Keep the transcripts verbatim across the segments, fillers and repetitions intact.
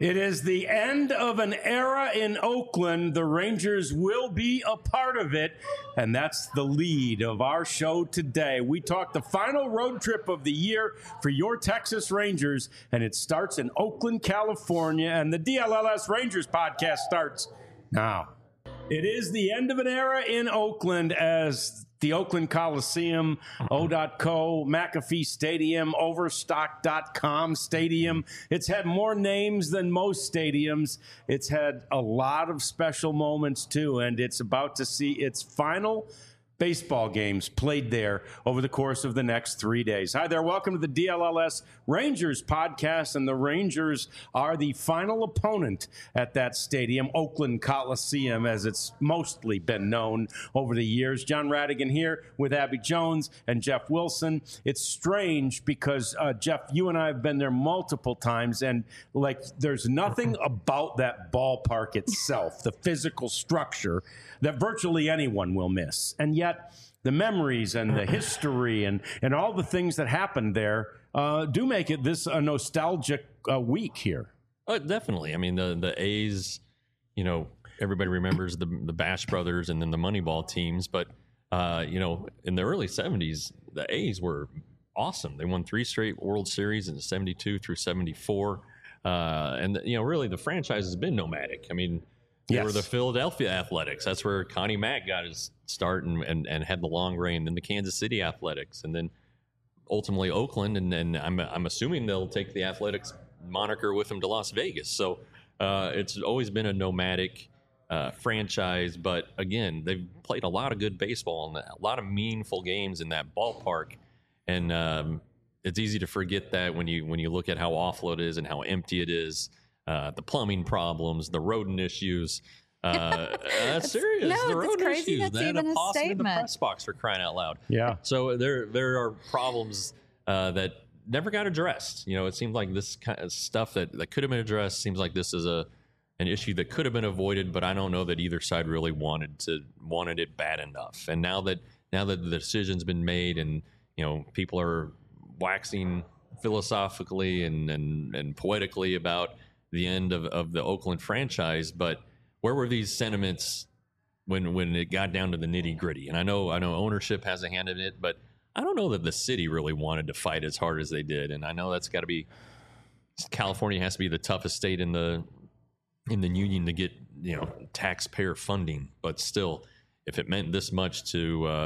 It is the end of an era in Oakland. The Rangers will be a part of it, and that's the lead of our show today. We talk the final road trip of the year for your Texas Rangers, and it starts in Oakland, California, and the D L L S Rangers podcast starts now. It is the end of an era in Oakland as the Oakland Coliseum, O dot co, McAfee Stadium, Overstock dot com Stadium. It's had more names than most stadiums. It's had a lot of special moments, too, and it's about to see its final baseball games played there over the course of the next three days. Hi there. Welcome to the D L L S Rangers podcast, and the Rangers are the final opponent at that stadium, Oakland Coliseum, as it's mostly been known over the years. John Radigan here with Abby Jones and Jeff Wilson. It's strange because, uh, Jeff, you and I have been there multiple times, and like there's nothing about that ballpark itself, the physical structure, that virtually anyone will miss. And yet the memories and the history and, and all the things that happened there uh, do make it this a nostalgic uh, week here. Oh, definitely. I mean, the, the A's, you know, everybody remembers the, the Bash Brothers and then the Moneyball teams. But, uh, you know, in the early seventies, the A's were awesome. They won three straight World Series in seventy-two through seventy-four. Uh, and, you know, really the franchise has been nomadic. I mean, They yes. were the Philadelphia Athletics. That's where Connie Mack got his start and, and, and had the long reign. Then the Kansas City Athletics, and then ultimately Oakland. And then I'm I'm assuming they'll take the Athletics moniker with them to Las Vegas. So uh, it's always been a nomadic uh, franchise. But again, they've played a lot of good baseball and a lot of meaningful games in that ballpark. And um, it's easy to forget that when you when you look at how awful it is and how empty it is. Uh, the plumbing problems, the rodent issues. Uh, that's serious. No, the rodent crazy. issues. That's They had even a a possum in the statement. press box for crying out loud. Yeah. So there, there are problems uh, that never got addressed. You know, it seems like this kind of stuff that, that could have been addressed. Seems like this is a an issue that could have been avoided, but I don't know that either side really wanted to wanted it bad enough. And now that now that the decision's been made, and you know, people are waxing philosophically and and, and poetically about the end of, of the Oakland franchise, but where were these sentiments when when it got down to the nitty gritty? And I know I know ownership has a hand in it, but I don't know that the city really wanted to fight as hard as they did. And I know that's got to be California has to be the toughest state in the in the union to get, you know, taxpayer funding. But still, if it meant this much to uh,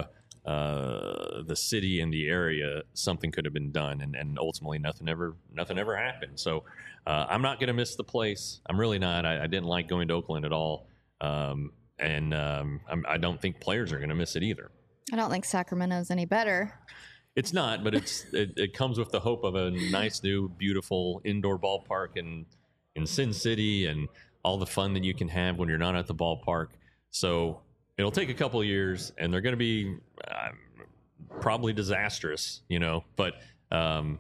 uh, the city and the area, something could have been done, and, and ultimately nothing ever nothing ever happened. So. Uh, I'm not going to miss the place. I'm really not. I, I didn't like going to Oakland at all. Um, and um, I'm, I don't think players are going to miss it either. I don't think Sacramento's any better. It's not, but it's it, it comes with the hope of a nice, new, beautiful indoor ballpark in, in Sin City and all the fun that you can have when you're not at the ballpark. So it'll take a couple of years, and they're going to be uh, probably disastrous, you know, but um,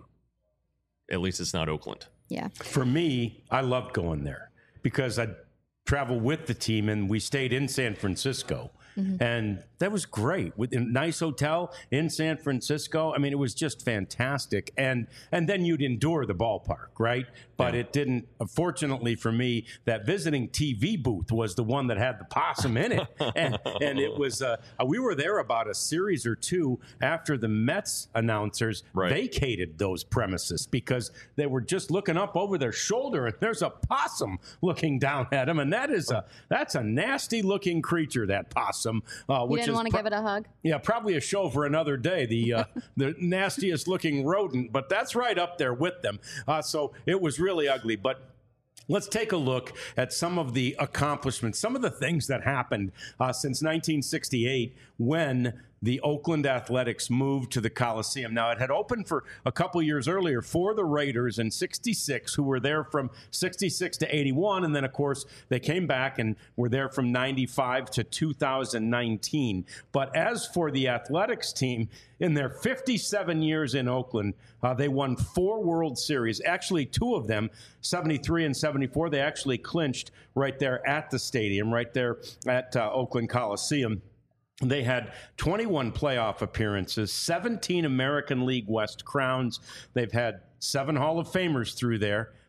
at least it's not Oakland. Yeah. For me, I loved going there because I'd travel with the team, and we stayed in San Francisco. Mm-hmm. And that was great. With a nice hotel in San Francisco. I mean, it was just fantastic. And and then you'd endure the ballpark, right? But yeah. It didn't. Fortunately for me, that visiting T V booth was the one that had the possum in it. and and it was, uh, we were there about a series or two after the Mets announcers right. vacated those premises because they were just looking up over their shoulder, and there's a possum looking down at them. And that is a, that's a nasty looking creature, that possum. Uh, you which didn't is want to pro- give it a hug? Yeah, probably a show for another day. The uh, the nastiest looking rodent, but that's right up there with them. Uh, so it was really ugly. But let's take a look at some of the accomplishments, some of the things that happened uh, since nineteen sixty-eight when the Oakland Athletics moved to the Coliseum. Now, it had opened for a couple years earlier for the Raiders in sixty-six, who were there from sixty-six to eighty-one. And then, of course, they came back and were there from ninety-five to two thousand nineteen. But as for the Athletics team, in their fifty-seven years in Oakland, uh, they won four World Series. Actually, two of them, seventy-three and seventy-four, they actually clinched right there at the stadium, right there at uh, Oakland Coliseum. They had twenty-one playoff appearances, seventeen American League West crowns. They've had seven Hall of Famers through there,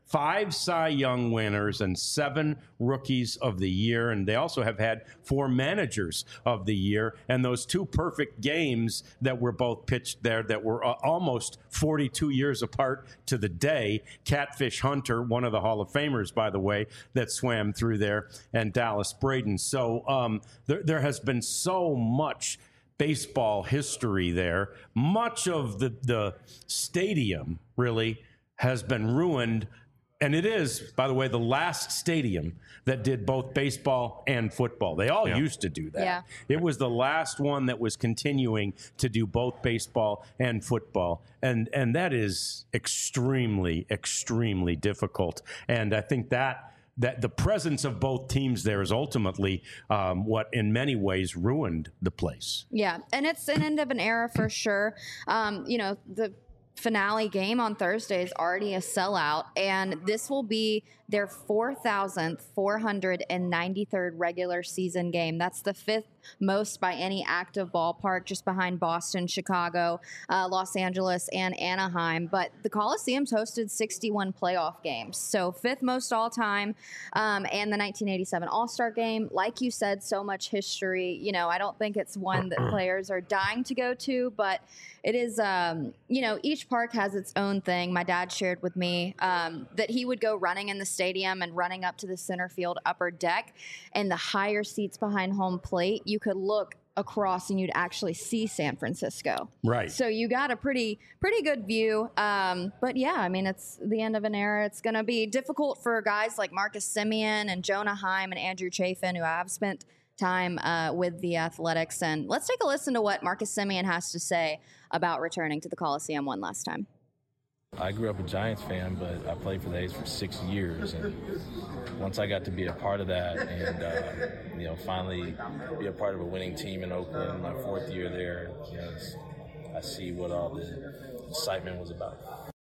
five Cy Young winners and seven Rookies of the Year. And they also have had four Managers of the Year. And those two perfect games that were both pitched there that were uh, almost forty-two years apart to the day. Catfish Hunter, one of the Hall of Famers, by the way, that swam through there, and Dallas Braden. So um, there, there has been so much baseball history there. Much of the, the stadium really has been ruined. And it is, by the way, the last stadium that did both baseball and football. They all yeah. used to do that. Yeah. It was the last one that was continuing to do both baseball and football. And and that is extremely, extremely difficult. And I think that that the presence of both teams there is ultimately um, what in many ways ruined the place. Yeah, and it's an end of an era for sure. Um, you know, the finale game on Thursday is already a sellout, and this will be their four thousand four hundred ninety-third regular season game. That's the fifth most by any active ballpark, just behind Boston, Chicago, uh, Los Angeles, and Anaheim. But the Coliseum's hosted sixty-one playoff games, so fifth most all time. Um, and the nineteen eighty-seven All-Star Game, like you said, so much history. You know, I don't think it's one that players are dying to go to, but it is, um, you know, each park has its own thing. My dad shared with me um, that he would go running in the stadium and running up to the center field upper deck, and the higher seats behind home plate, you could look across and you'd actually see San Francisco. Right. So you got a pretty pretty good view. Um, but yeah, I mean, it's the end of an era. It's going to be difficult for guys like Marcus Semien and Jonah Heim and Andrew Chafin, who have spent time uh, with the Athletics. And let's take a listen to what Marcus Semien has to say about returning to the Coliseum one last time. I grew up a Giants fan, but I played for the A's for six years. And once I got to be a part of that and, uh, you know, finally be a part of a winning team in Oakland, my fourth year there, you know, I see what all the excitement was about.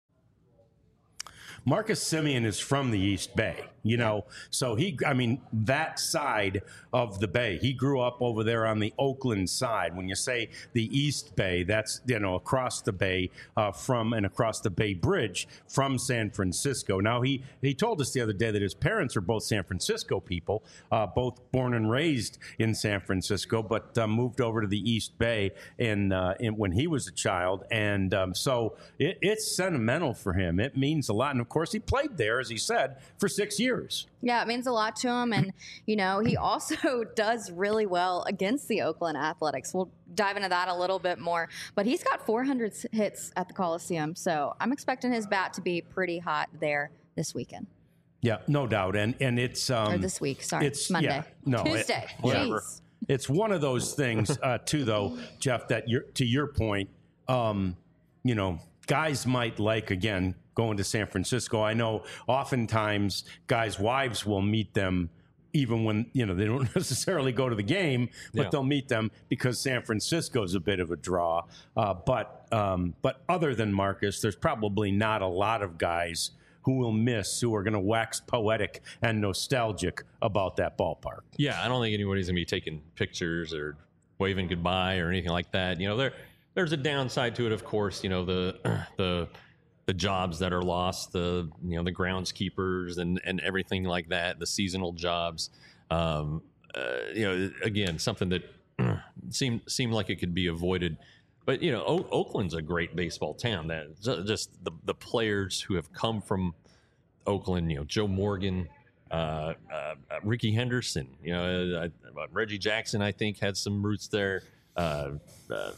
Marcus Semien is from the East Bay, you know, so he, I mean, that side of the Bay, he grew up over there on the Oakland side. When you say the East Bay, that's, you know, across the Bay uh, from and across the Bay Bridge from San Francisco. Now, he, he told us the other day that his parents are both San Francisco people, uh, both born and raised in San Francisco, but uh, moved over to the East Bay in, uh, in, when he was a child. And um, so it, it's sentimental for him. It means a lot. And of course, he played there, as he said, for six years. Yeah, it means a lot to him. And, you know, he also does really well against the Oakland Athletics. We'll dive into that a little bit more. But he's got four hundred hits at the Coliseum. So I'm expecting his bat to be pretty hot there this weekend. Yeah, no doubt. And and it's... Um, or this week, sorry. It's Monday. Yeah, no, Tuesday. It, whatever. Jeez. It's one of those things, uh, too, though, Jeff, that you're, to your point, um, you know, guys might like, again, going to San Francisco. I know oftentimes guys' wives will meet them even when, you know, they don't necessarily go to the game, but yeah. they'll meet them because San Francisco is a bit of a draw. Uh, but um, but other than Marcus, there's probably not a lot of guys who will miss, who are going to wax poetic and nostalgic about that ballpark. Yeah, I don't think anybody's going to be taking pictures or waving goodbye or anything like that. You know, there there's a downside to it, of course. You know, the the the jobs that are lost, the you know the groundskeepers and and everything like that, the seasonal jobs. Um, uh, you know, again, something that seemed seemed like it could be avoided. But, you know, o- Oakland's a great baseball town. That just the, the players who have come from Oakland, you know, Joe Morgan, uh, uh, Ricky Henderson, you know, uh, uh, Reggie Jackson, I think, had some roots there. Uh, uh, uh,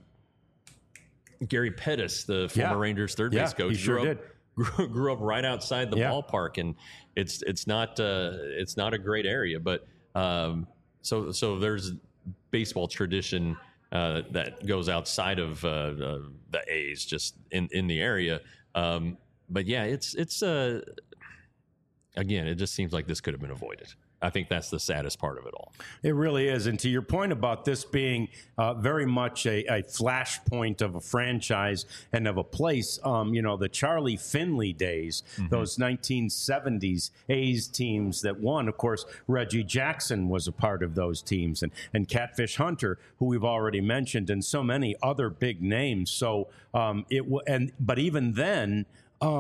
Gary Pettis, the former yeah. Rangers third yeah, base coach, he sure grew, did. Up, grew, grew up right outside the yeah. ballpark, and it's it's not uh, it's not a great area, but um, so so there's baseball tradition. Uh, that goes outside of uh, uh, the A's, just in, in the area. Um, but yeah, it's it's uh, again, it just seems like this could have been avoided. I think that's the saddest part of it all. It really is. And to your point about this being uh, very much a, a flashpoint of a franchise and of a place, um, you know, the Charlie Finley days, mm-hmm. those nineteen seventies A's teams that won. Of course, Reggie Jackson was a part of those teams, and, and Catfish Hunter, who we've already mentioned, and so many other big names. So um, it w- and but even then, um,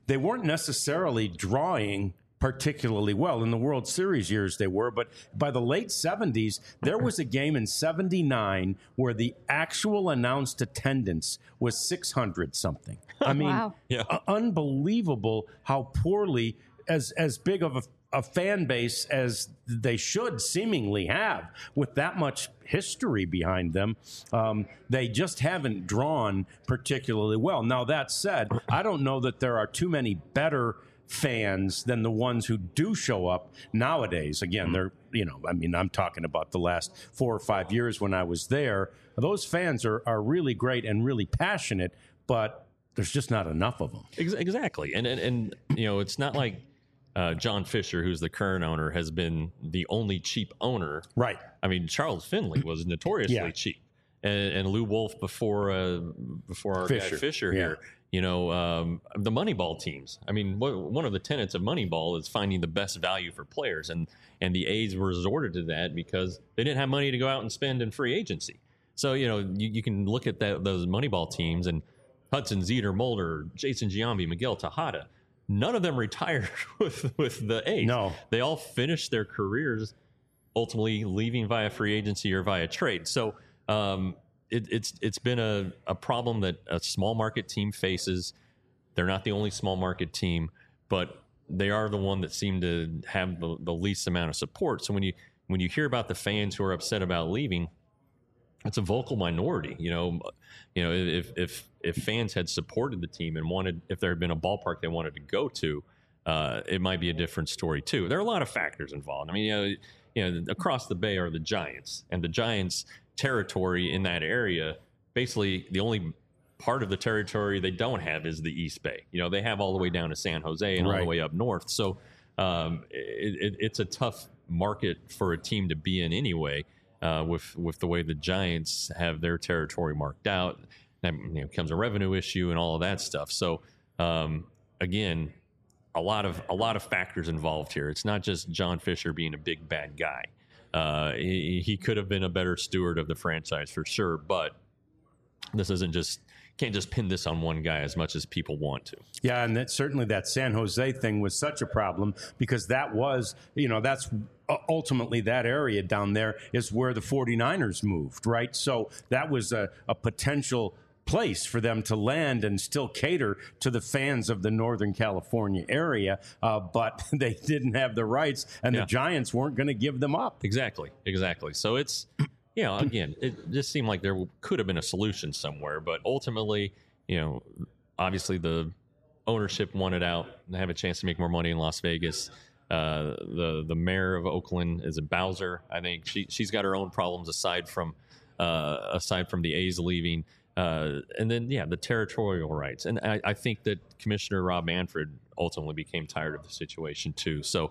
they weren't necessarily drawing particularly well. In the World Series years they were, but by the late seventies, there was a game in seventy-nine where the actual announced attendance was six hundred something. I mean, Wow. Yeah. uh, unbelievable how poorly, as as big of a, a fan base as they should seemingly have, with that much history behind them, um, they just haven't drawn particularly well. Now, that said, I don't know that there are too many better fans than the ones who do show up nowadays. Again, they're, you know, I mean, I'm talking about the last four or five years when I was there. Those fans are, are really great and really passionate, but there's just not enough of them. Ex- Exactly. And, and, and, you know, it's not like uh, John Fisher, who's the current owner, has been the only cheap owner. Right. I mean, Charles Finley was notoriously Yeah. cheap. And, and Lou Wolf before uh, before our Fisher. guy Fisher Yeah. here, you know, um, the Moneyball teams. I mean, what, one of the tenets of Moneyball is finding the best value for players. And, and the A's resorted to that because they didn't have money to go out and spend in free agency. So, you know, you, you can look at that, those Moneyball teams and Hudson, Zeter, Mulder, Jason Giambi, Miguel Tejada. None of them retired with, with the A's. No. They all finished their careers ultimately leaving via free agency or via trade. So um, it, it's it's been a, a problem that a small market team faces. They're not the only small market team, but they are the one that seem to have the, the least amount of support. So when you when you hear about the fans who are upset about leaving, it's a vocal minority. You know, you know if if if fans had supported the team and wanted, if there had been a ballpark they wanted to go to, uh, it might be a different story too. There are a lot of factors involved. I mean, you know, you know, across the bay are the Giants, and the Giants' territory in that area, basically the only part of the territory they don't have is the East Bay. You know, they have all the way down to San Jose and all Right. the way up north. So um, it, it, it's a tough market for a team to be in anyway. Uh, with with the way the Giants have their territory marked out, that, you know, becomes a revenue issue and all of that stuff. So um, again, a lot of a lot of factors involved here. It's not just John Fisher being a big bad guy. Uh, he, he could have been a better steward of the franchise for sure, but this isn't just can't just pin this on one guy as much as people want to. Yeah, and that certainly that San Jose thing was such a problem because that was, you know, that's ultimately that area down there is where the 49ers moved, right? So that was a, a potential place for them to land and still cater to the fans of the Northern California area, uh, but they didn't have the rights, and Yeah. the Giants weren't going to give them up. Exactly, exactly. So it's, you know, again, it just seemed like there could have been a solution somewhere, but ultimately, you know, obviously the ownership wanted out and have a chance to make more money in Las Vegas. Uh, the the mayor of Oakland is a Bowser. I think she she's got her own problems aside from uh, aside from the A's leaving. Uh, and then, yeah, the territorial rights. And I, I think that Commissioner Rob Manfred ultimately became tired of the situation too. So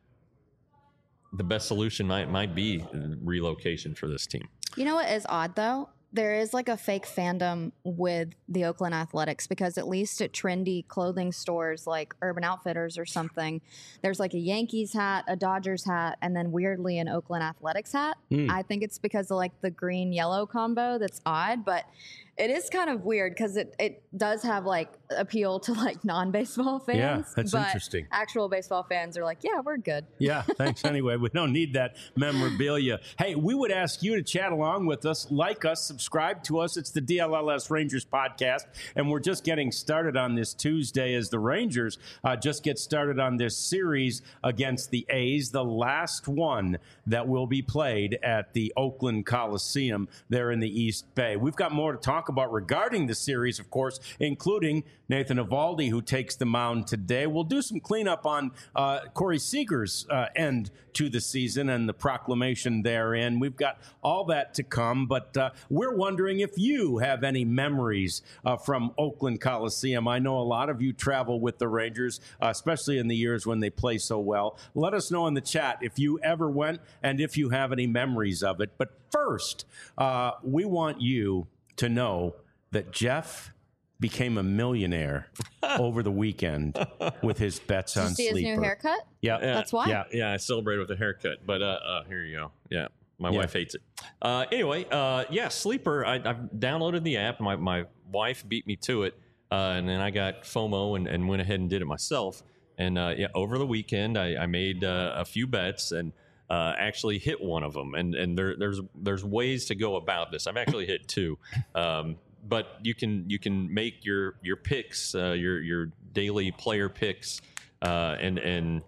the best solution might might be relocation for this team. You know what is odd though? There is like a fake fandom with the Oakland Athletics because at least at trendy clothing stores like Urban Outfitters or something, there's like a Yankees hat, a Dodgers hat, and then weirdly an Oakland Athletics hat. Mm. I think it's because of like the green yellow combo that's odd, but it is kind of weird because it, it does have like appeal to like non-baseball fans. Yeah, that's but interesting. Actual baseball fans are like, yeah, we're good. Yeah, thanks anyway. We don't need that memorabilia. Hey, we would ask you to chat along with us, like us, subscribe to us. It's the D L L S Rangers podcast, and we're just getting started on this Tuesday as the Rangers uh, just get started on this series against the A's, the last one that will be played at the Oakland Coliseum there in the East Bay. We've got more to talk about regarding the series, of course, including Nathan Eovaldi, who takes the mound today. We'll do some cleanup on uh, Corey Seager's uh, end to the season and the proclamation therein. We've got all that to come, but uh, we're wondering if you have any memories uh, from Oakland Coliseum. I know a lot of you travel with the Rangers, uh, especially in the years when they play so well. Let us know in the chat if you ever went and if you have any memories of it. But first, uh, we want you to know that Jeff became a millionaire over the weekend with his bets Did you on see his Sleeper. new haircut? Yeah, Yeah. That's why. yeah. Yeah, I celebrated with a haircut, but uh, uh here you go. Yeah, my Yeah. wife hates it. Uh, anyway, uh, yeah, Sleeper. I, I've downloaded the app. My my wife beat me to it. uh, and then I got FOMO and, and went ahead and did it myself. And uh, yeah, over the weekend, I, I made uh, a few bets and uh, actually hit one of them. And and there, there's there's ways to go about this. I've actually hit two, um, but you can you can make your your picks, uh, your your daily player picks, uh, and and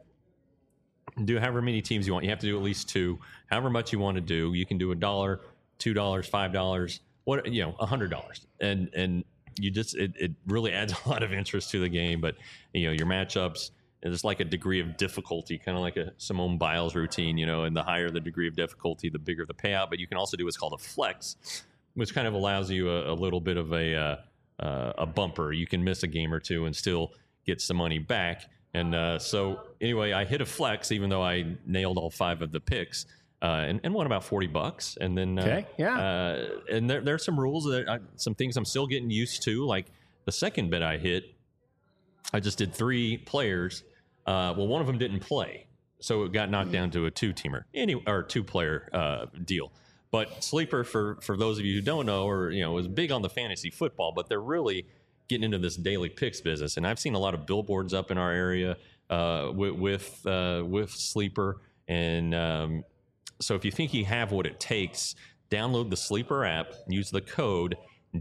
do however many teams you want. You have to do at least two, however much you want to do. You can do a dollar, two dollars, five dollars, what you know, a hundred dollars, and and you just it, it really adds a lot of interest to the game. But you know, your matchups, there's like a degree of difficulty, kind of like a Simone Biles routine, you know, and the higher the degree of difficulty, the bigger the payout. But you can also do what's called a flex, which kind of allows you a, a little bit of a uh, uh, a bumper. You can miss a game or two and still get some money back. And uh, so anyway, I hit a flex, even though I nailed all five of the picks, uh, and, and won about forty bucks. And then, uh, okay, yeah. Uh, and there, there are some rules that I, some things I'm still getting used to. Like the second bet I hit, I just did three players. Uh, well, one of them didn't play, so it got knocked down to a two-teamer, any or two-player uh, deal. But Sleeper, for for those of you who don't know, or you know, is big on the fantasy football, but they're really getting into this daily picks business. And I've seen a lot of billboards up in our area uh, with with, uh, with Sleeper. And um, so if you think you have what it takes, download the Sleeper app, use the code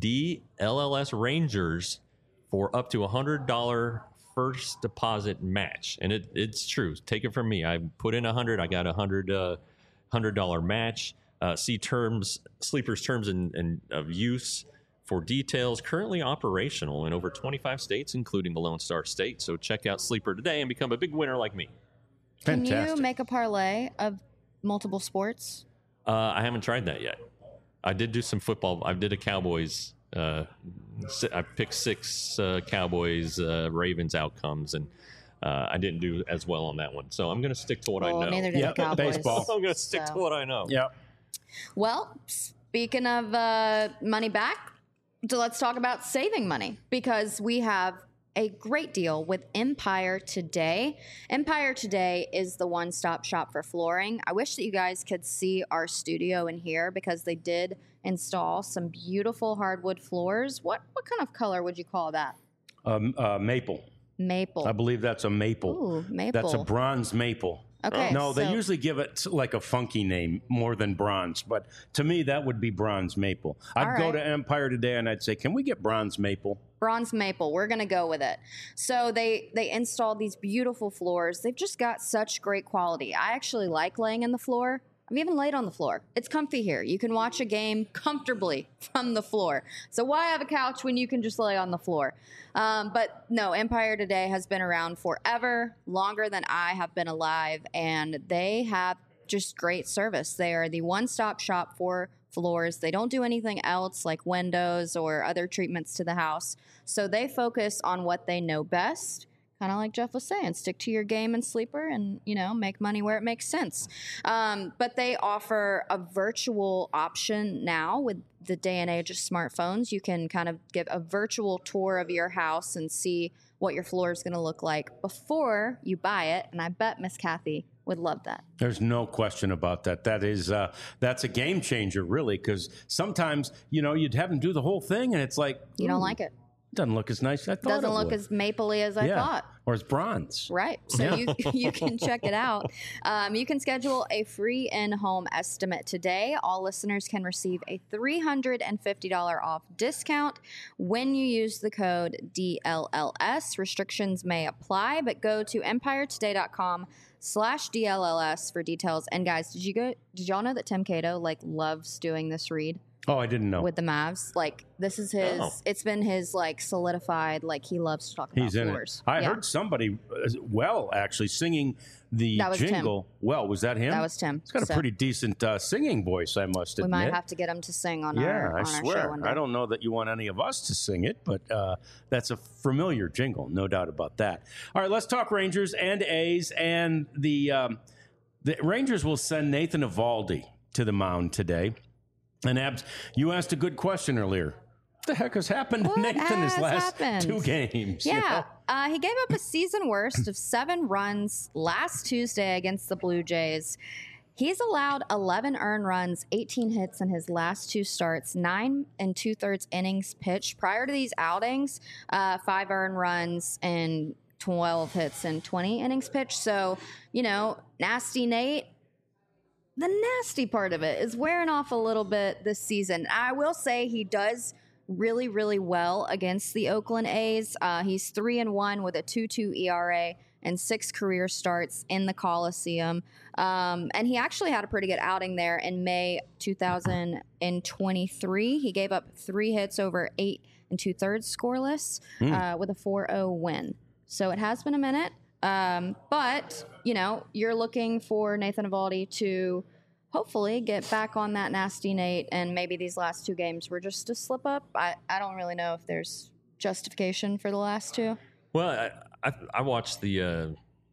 D L L S Rangers for up to a one hundred dollars first deposit match. And it, it's true. Take it from me. I put in one hundred dollars. I got a one hundred dollars uh, one hundred dollars match. Uh, see terms, Sleeper's terms and, and of use for details. Currently operational in over twenty-five states, including the Lone Star State. So check out Sleeper today and become a big winner like me. Can Fantastic. you make a parlay of multiple sports? Uh, I haven't tried that yet. I did do some football. I did a Cowboys. Uh, I picked six uh, Cowboys uh, Ravens outcomes, and uh, I didn't do as well on that one. So I'm going to stick to what well, I know. Neither did Yeah, the Cowboys. baseball. I'm going to stick so. to what I know. Yeah. Well, speaking of uh, money back, so let's talk about saving money, because we have a great deal with Empire Today. Empire Today is the one-stop shop for flooring. I wish that you guys could see our studio in here, because they did install some beautiful hardwood floors. What what kind of color would you call that? Um, uh, maple. Maple. I believe that's a maple. Ooh, maple. That's a bronze maple. Okay, No, they so- usually give it like a funky name more than bronze, but to me that would be bronze maple. I'd All go right. to Empire Today and I'd say, "Can we get bronze maple?" Bronze maple. We're gonna go with it. So they they installed these beautiful floors. They've just got such great quality. I actually like laying in the floor. I've even laid on the floor. It's comfy here. You can watch a game comfortably from the floor. So why have a couch when you can just lay on the floor? Um, but no, Empire Today has been around forever, longer than I have been alive, and they have just great service. They are the one-stop shop for floors. They don't do anything else like windows or other treatments to the house. So they focus on what they know best. Kind of like Jeff was saying, stick to your game and Sleeper and, you know, make money where it makes sense. Um, but they offer a virtual option now with the day and age of smartphones. You can kind of give a virtual tour of your house and see what your floor is going to look like before you buy it. And I bet Miss Kathy would love that. There's no question about that. That is, uh, that's a game changer, really, because sometimes, you know, you'd have them do the whole thing, and it's like, You don't ooh, like it. doesn't look as nice as I thought Doesn't it look would. as mapley as I yeah. thought. Or as bronze. Right. So you, you can check it out. Um, you can schedule a free in-home estimate today. All listeners can receive a three hundred fifty dollars off discount when you use the code D L L S. Restrictions may apply, but go to empiretoday.com slash DLLS for details. And guys, did you go, did y'all know that Tim Cato like loves doing this read? Oh, I didn't know. With the Mavs, like this is his. Oh. It's been his like solidified. Like he loves to talk about He's in floors. it. I Yeah. heard somebody, uh, well, actually singing the That was Tim. jingle. Well, was that him? That was Tim. He's got a So- pretty decent uh, singing voice, I must We admit. might have to get him to sing on yeah, our, I on our show swear. one day. I don't know that you want any of us to sing it, but uh, that's a familiar jingle, no doubt about that. All right, let's talk Rangers and A's. And the um, the Rangers will send Nathan Eovaldi to the mound today. And Abs, you asked a good question earlier. What the heck has happened What to Nathan his has last happened? two games? you Yeah, know? uh, he gave up a season worst of seven runs last Tuesday against the Blue Jays. He's allowed eleven earned runs, eighteen hits in his last two starts, nine and two thirds innings pitched. Prior to these outings, uh, five earned runs and twelve hits and twenty innings pitched. So, you know, Nasty Nate, the nasty part of it is wearing off a little bit this season. I will say he does really, really well against the Oakland A's. Uh, he's three and one with a two two E R A and six career starts in the Coliseum. Um, and he actually had a pretty good outing there in May two thousand twenty-three. He gave up three hits over eight and two thirds scoreless mm. uh, with a four oh win. So it has been a minute. Um, but, you know, you're looking for Nathan Eovaldi to hopefully get back on that Nasty Nate, and maybe these last two games were just a slip up. I, I don't really know if there's justification for the last two. Well, I, I, I watched the uh,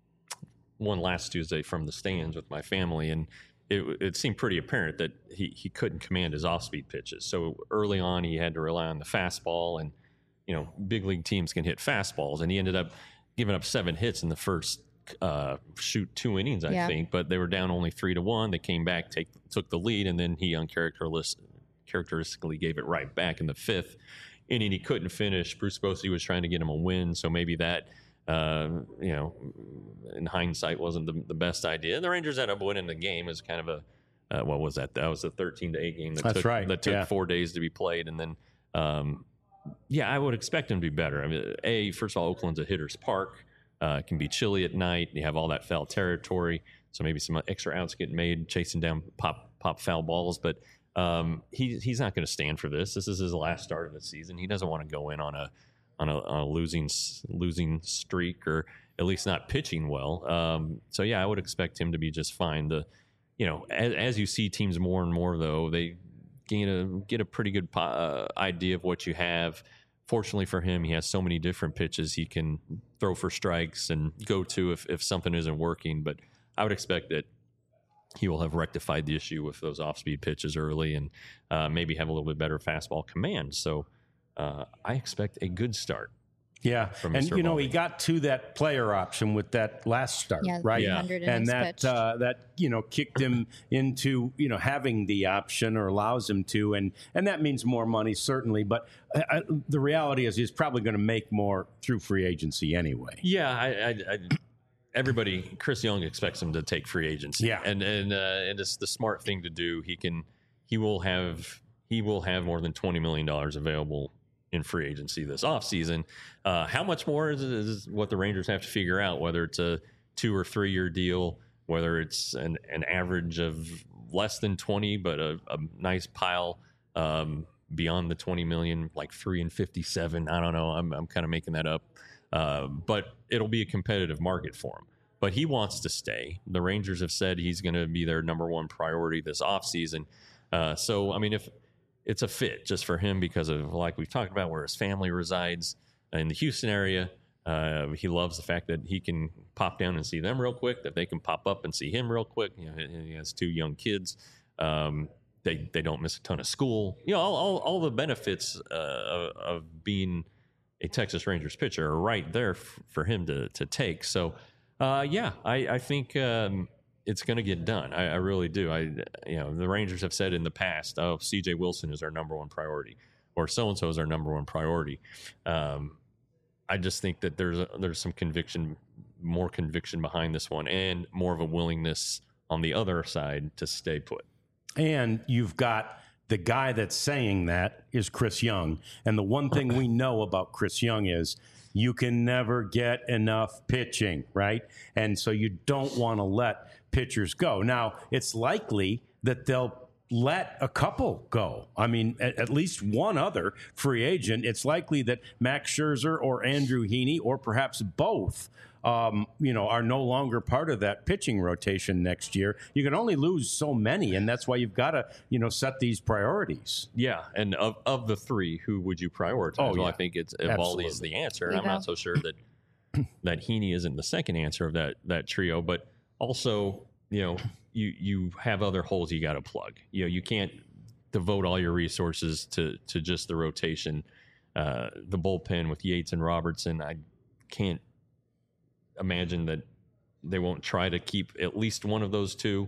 one last Tuesday from the stands with my family, and it, it seemed pretty apparent that he, he couldn't command his off-speed pitches. So early on, he had to rely on the fastball, and, you know, big league teams can hit fastballs, and he ended up giving up seven hits in the first uh, shoot two innings, I yeah. think, but they were down only three to one. They came back, take, took the lead, and then he uncharacteristically gave it right back in the fifth inning. He couldn't finish. Bruce Bochy was trying to get him a win, so maybe that, uh, you know, in hindsight, wasn't the, the best idea. And the Rangers ended up winning the game as kind of a, uh, what was that? That was a thirteen to eight game that That's took, right. that took yeah. four days to be played, and then. Um, Yeah, I would expect him to be better. I mean, A, first of all, Oakland's a hitter's park. Uh, it can be chilly at night. You have all that foul territory, so maybe some extra outs get made chasing down pop pop foul balls. But um, he he's not going to stand for this. This is his last start of the season. He doesn't want to go in on a on a, on a losing losing streak, or at least not pitching well. Um, so yeah, I would expect him to be just fine. The you know as, as you see teams more and more though, they Get a, get a pretty good uh, idea of what you have. Fortunately for him, he has so many different pitches he can throw for strikes and go to if, if something isn't working. But I would expect that he will have rectified the issue with those off-speed pitches early, and uh, maybe have a little bit better fastball command. So uh, I expect a good start. Yeah, from and Mister you know Eovaldi. he got to that player option with that last start, yeah, right? Yeah. And that uh, that you know kicked him into you know having the option, or allows him to, and and that means more money certainly. But uh, the reality is he's probably going to make more through free agency anyway. Yeah, I, I, I everybody, Chris Young expects him to take free agency. Yeah, and and uh, and it's the smart thing to do. He can, he will have, he will have more than twenty million dollars available in free agency this offseason. Uh, how much more is, is what the Rangers have to figure out, whether it's a two or three year deal, whether it's an, an average of less than twenty, but a, a nice pile um, beyond the twenty million, like three and fifty-seven. I don't know. I'm, I'm kind of making that up. Uh, but it'll be a competitive market for him. But he wants to stay. The Rangers have said he's going to be their number one priority this offseason. Uh, so, I mean, if it's a fit just for him because of, like we've talked about, where his family resides in the Houston area. Uh, he loves the fact that he can pop down and see them real quick, that they can pop up and see him real quick. You know, he has two young kids. Um, they they don't miss a ton of school. You know, all all, all the benefits uh, of, of being a Texas Rangers pitcher are right there f- for him to to take. So, uh, yeah, I, I think um, it's going to get done. I, I really do. I, you know, the Rangers have said in the past, "Oh, C J Wilson is our number one priority," or "So and so is our number one priority." Um, I just think that there's a, there's some conviction, more conviction behind this one, and more of a willingness on the other side to stay put. And you've got the guy that's saying that is Chris Young, and the one thing we know about Chris Young is you can never get enough pitching, right? And so you don't want to let pitchers go. Now, it's likely that they'll let a couple go. I mean, at, at least one other free agent. It's likely that Max Scherzer or Andrew Heaney, or perhaps both, um, you know, are no longer part of that pitching rotation next year. You can only lose so many, and that's why you've got to, you know, set these priorities. Yeah, and of, of the three, who would you prioritize? Oh, well, yeah. I think it's Eovaldi is the answer, and You I'm know. not so sure that that Heaney isn't the second answer of that that trio. But also, you know, you you have other holes you got to plug. You know, you can't devote all your resources to to just the rotation, uh, the bullpen with Yates and Robertson. I can't imagine that they won't try to keep at least one of those two.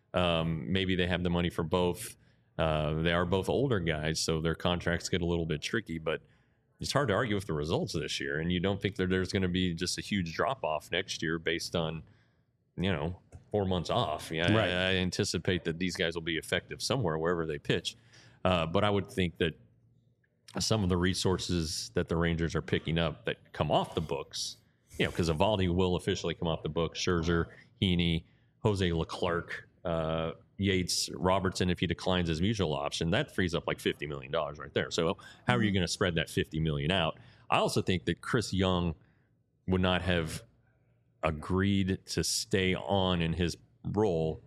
Um, maybe they have the money for both. Uh, they are both older guys, so their contracts get a little bit tricky, but it's hard to argue with the results this year. And you don't think that there's going to be just a huge drop off next year based on, you know, four months off. Yeah, Right. I, I anticipate that these guys will be effective somewhere, wherever they pitch. Uh, but I would think that some of the resources that the Rangers are picking up that come off the books, you know, because Eovaldi will officially come off the books, Scherzer, Heaney, Jose Leclerc, uh, Yates, Robertson, if he declines his mutual option, that frees up like fifty million dollars right there. So how are you going to spread that fifty million dollars out? I also think that Chris Young would not have agreed to stay on in his role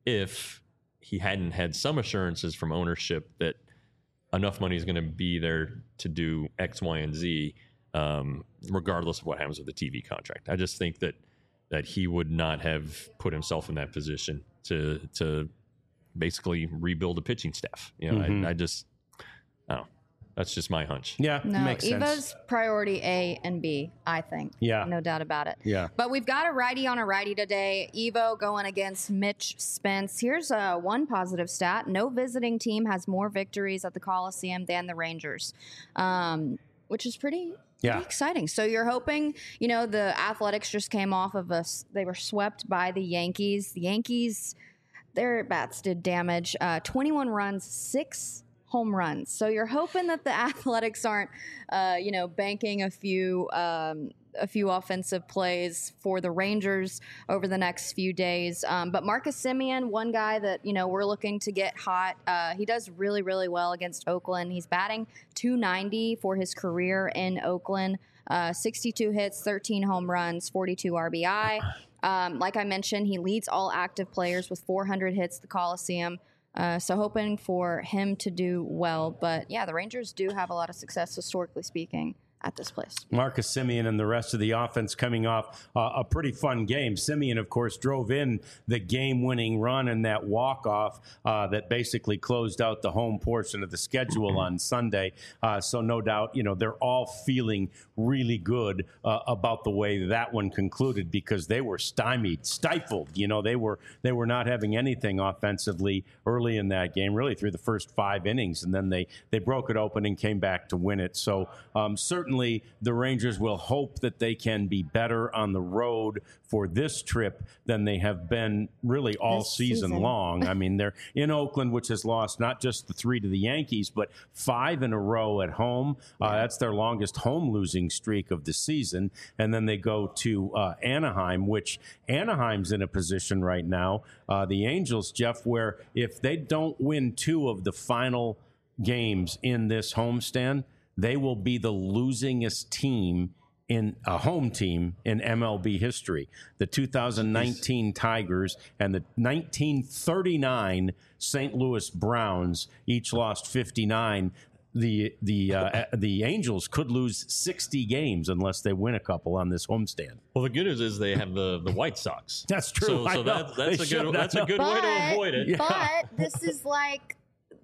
if he hadn't had some assurances from ownership that enough money is going to be there to do X, Y, and Z, um, regardless of what happens with the T V contract. I just think that that he would not have put himself in that position to to basically rebuild a pitching staff. You know, Mhm. I, I just, I don't know. That's just my hunch. Yeah, No, makes Evo's sense. priority A and B, I think. Yeah. No doubt about it. Yeah. But we've got a righty on a righty today. Evo going against Mitch Spence. Here's uh, one positive stat. No visiting team has more victories at the Coliseum than the Rangers, um, which is pretty, Yeah. pretty exciting. So you're hoping, you know, the Athletics just came off of us. They were swept by the Yankees. The Yankees, their bats did damage. Uh, twenty-one runs, six home runs. So you're hoping that the Athletics aren't, uh, you know, banking a few um, a few offensive plays for the Rangers over the next few days. Um, but Marcus Semien, one guy that, you know, we're looking to get hot. Uh, he does really, really well against Oakland. He's batting two ninety for his career in Oakland. Uh, sixty-two hits, thirteen home runs, forty-two R B I. Um, like I mentioned, he leads all active players with four hundred hits at the Coliseum. Uh, so hoping for him to do well. But yeah, the Rangers do have a lot of success, historically speaking, at this place. Marcus Semien and the rest of the offense coming off uh, a pretty fun game. Semien, of course, drove in the game-winning run and that walk-off uh, that basically closed out the home portion of the schedule on Sunday. Uh, so no doubt, you know, they're all feeling really good uh, about the way that one concluded because they were stymied, stifled. You know, they were they were not having anything offensively early in that game, really through the first five innings, and then they they broke it open and came back to win it. So um, certainly. The Rangers will hope that they can be better on the road for this trip than they have been really all This season, season. long. I mean, they're in Oakland, which has lost not just the three to the Yankees, but five in a row at home. Uh, that's their longest home losing streak of the season. And then they go to uh, Anaheim, which Anaheim's in a position right now. Uh, the Angels, Jeff, where if they don't win two of the final games in this homestand, they will be the losingest team in a home team in M L B history. The two thousand nineteen Tigers and the nineteen thirty-nine Saint Louis Browns each lost fifty-nine. The the uh, the Angels could lose sixty games unless they win a couple on this homestand. Well, the good news is they have the, the White Sox. That's true. So, I so know. that, that's They a should, good I that's a know. good way to But- avoid it. But this is like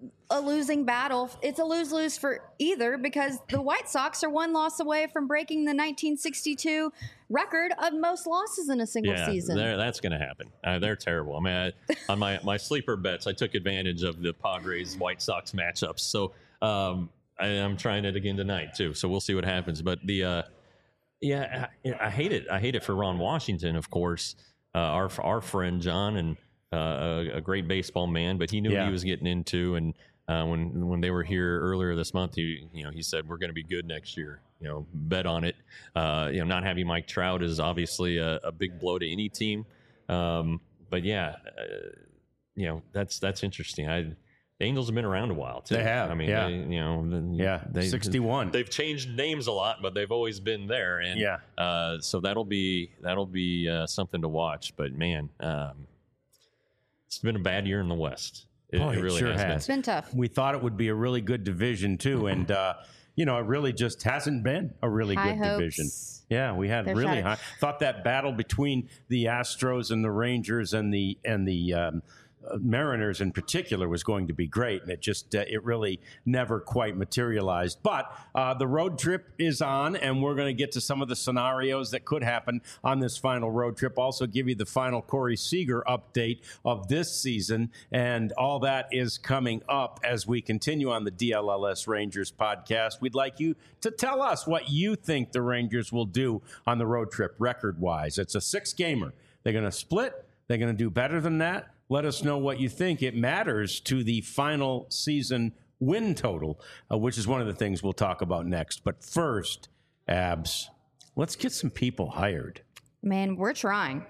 a losing battle. It's a lose-lose for either because the White Sox are one loss away from breaking the nineteen sixty-two record of most losses in a single Yeah, season. they're- that's going to happen. Uh, they're terrible. I mean, I, on my, my sleeper bets, I took advantage of the Padres White Sox matchups. So um, I, I'm trying it again tonight too. So we'll see what happens. But the uh, yeah, I, I hate it. I hate it for Ron Washington, of course, uh, our our friend John, and uh, a, a great baseball man. But he knew Yeah. what he was getting into, and uh, when when they were here earlier this month, he you know he said we're going to be good next year. You know, bet on it. Uh, you know, not having Mike Trout is obviously a, a big blow to any team. Um, but yeah, uh, you know that's that's interesting. I the Angels have been around a while too. They have, I mean, yeah. they, you know, the- Yeah, they, sixty-one. They've changed names a lot, but they've always been there. And Yeah. uh, so that'll be that'll be uh, something to watch. But man, um, it's been a bad year in the West. It, Boy, it it really sure has, has. It's been tough. We thought it would be a really good division too, and uh, you know, it really just hasn't been a really High good hopes. division. Yeah, we had They're really shattered. high. Thought that battle between the Astros and the Rangers and the and the um, Mariners in particular was going to be great, and it just uh, it really never quite materialized. But uh, the road trip is on, and we're going to get to some of the scenarios that could happen on this final road trip. Also give you the final Corey Seager update of this season, and all that is coming up as we continue on the D L L S Rangers podcast. We'd like you to tell us what you think the Rangers will do on the road trip record-wise. It's a six-gamer. They're going to split. They're going to do better than that. Let us know what you think. It matters to the final season win total, uh, which is one of the things we'll talk about next. But first, Abs, let's get some people hired. Man, we're trying.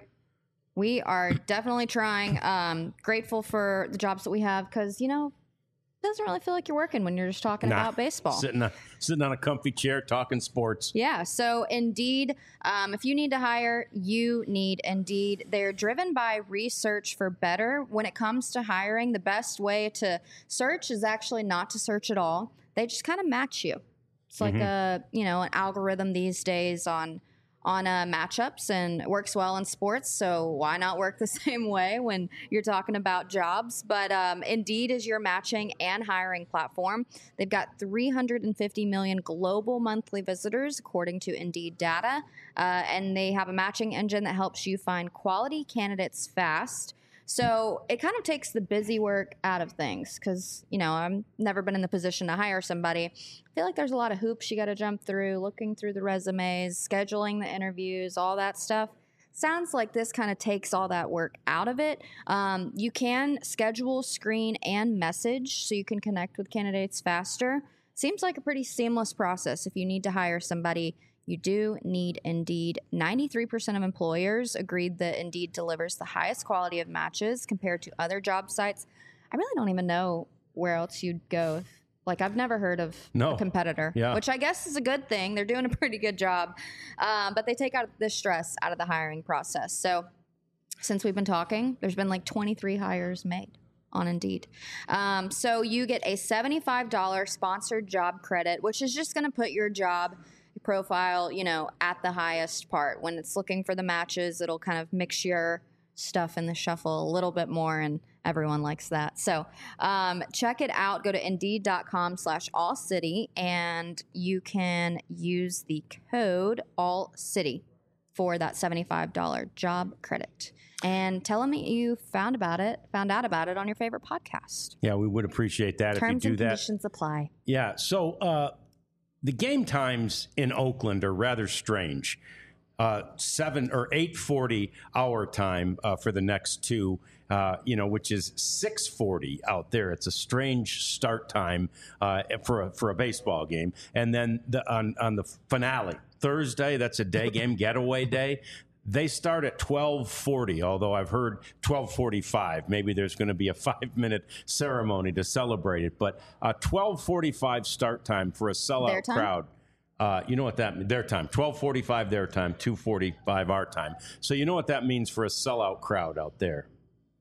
We are definitely trying. Um, grateful for the jobs that we have because, you know, it doesn't really feel like you're working when you're just talking Nah, about baseball. Sitting on, sitting on a comfy chair talking sports. Yeah. So Indeed, um, if you need to hire, you need Indeed. They're driven by research for better. When it comes to hiring, the best way to search is actually not to search at all. They just kind of match you. It's like mm-hmm. a, you know, an algorithm these days on on uh, matchups, and it works well in sports. So why not work the same way when you're talking about jobs? But um, Indeed is your matching and hiring platform. They've got three hundred fifty million global monthly visitors, according to Indeed data. Uh, and they have a matching engine that helps you find quality candidates fast. So it kind of takes the busy work out of things because, you know, I've never been in the position to hire somebody. I feel like there's a lot of hoops you got to jump through, looking through the resumes, scheduling the interviews, all that stuff. Sounds like this kind of takes all that work out of it. Um, you can schedule, screen, and message so you can connect with candidates faster. Seems like a pretty seamless process if you need to hire somebody. You do need Indeed. ninety-three percent of employers agreed that Indeed delivers the highest quality of matches compared to other job sites. I really don't even know where else you'd go. Like, I've never heard of no. a competitor, yeah. which I guess is a good thing. They're doing a pretty good job. Um, but they take out the stress out of the hiring process. So since we've been talking, there's been like twenty-three hires made on Indeed. Um, so you get a seventy-five dollars sponsored job credit, which is just going to put your job profile, you know, at the highest part. When it's looking for the matches, it'll kind of mix your stuff in the shuffle a little bit more, and everyone likes that. So um, check it out. Go to Indeed.com slash All City, and you can use the code All City for that seventy-five dollars job credit. And tell them you found about it, found out about it on your favorite podcast. Yeah, we would appreciate that Terms if you do and that. Conditions apply. Yeah. So uh, the game times in Oakland are rather strange. Uh, seven or eight forty our time uh, for the next two, uh, you know, which is six forty out there. It's a strange start time uh, for a, for a baseball game. And then the, on on the finale Thursday, that's a day game, getaway day. They start at twelve forty, although I've heard twelve forty-five. Maybe there's going to be a five-minute ceremony to celebrate it. But a twelve forty-five start time for a sellout crowd. Uh, you know what that means? Their time. twelve forty-five their time, two forty-five our time. So you know what that means for a sellout crowd out there?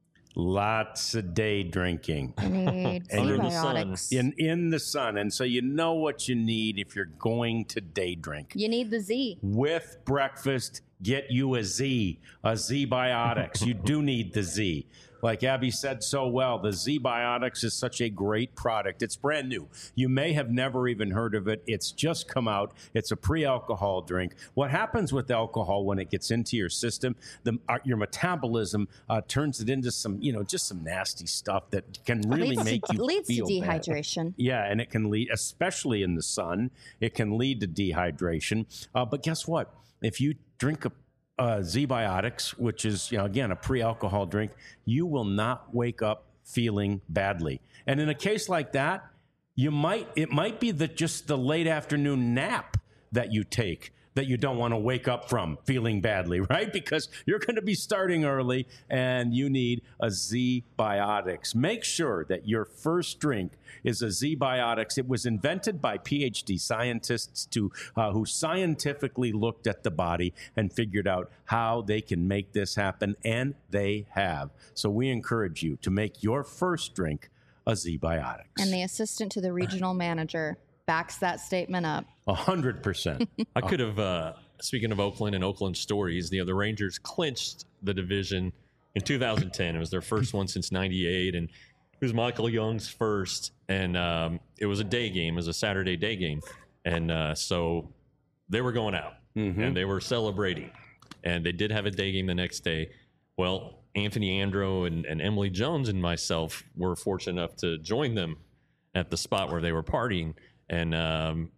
Lots of day drinking. Need Under the antibiotics. sun. In, in the sun. And so you know what you need if you're going to day drink. You need the Z. With breakfast, get you a Z, a Z-Biotics. You do need the Z. Like Abby said so well, the Z-Biotics is such a great product. It's brand new. You may have never even heard of it. It's just come out. It's a pre-alcohol drink. What happens with alcohol when it gets into your system, the, uh, your metabolism uh, turns it into some, you know, just some nasty stuff that can really leads make to, you leads feel to bad. dehydration. Yeah, and it can lead, especially in the sun, it can lead to dehydration. Uh, but guess what? If you drink a Uh, Z-Biotics, which is, you know, again, a pre-alcohol drink, you will not wake up feeling badly. And in a case like that, you might, it might be that just the late afternoon nap that you take that you don't want to wake up from feeling badly, right? Because you're going to be starting early and you need a Z-Biotics. Make sure that your first drink is a Z-Biotics. It was invented by P H D scientists to uh, who scientifically looked at the body and figured out how they can make this happen, and they have. So we encourage you to make your first drink a Z-Biotics. And the assistant to the regional manager backs that statement up. A hundred percent. I could have, uh, speaking of Oakland and Oakland stories, you know, the Rangers clinched the division in two thousand ten. It was their first one since ninety-eight, and it was Michael Young's first. And um, it was a day game. It was a Saturday day game. And uh, so they were going out, mm-hmm. and they were celebrating. And they did have a day game the next day. Well, Anthony Andro and, and Emily Jones and myself were fortunate enough to join them at the spot where they were partying. And um,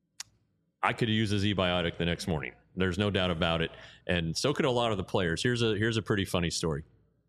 I could use a Z-Biotic the next morning. There's no doubt about it. And so could a lot of the players. Here's a here's a pretty funny story.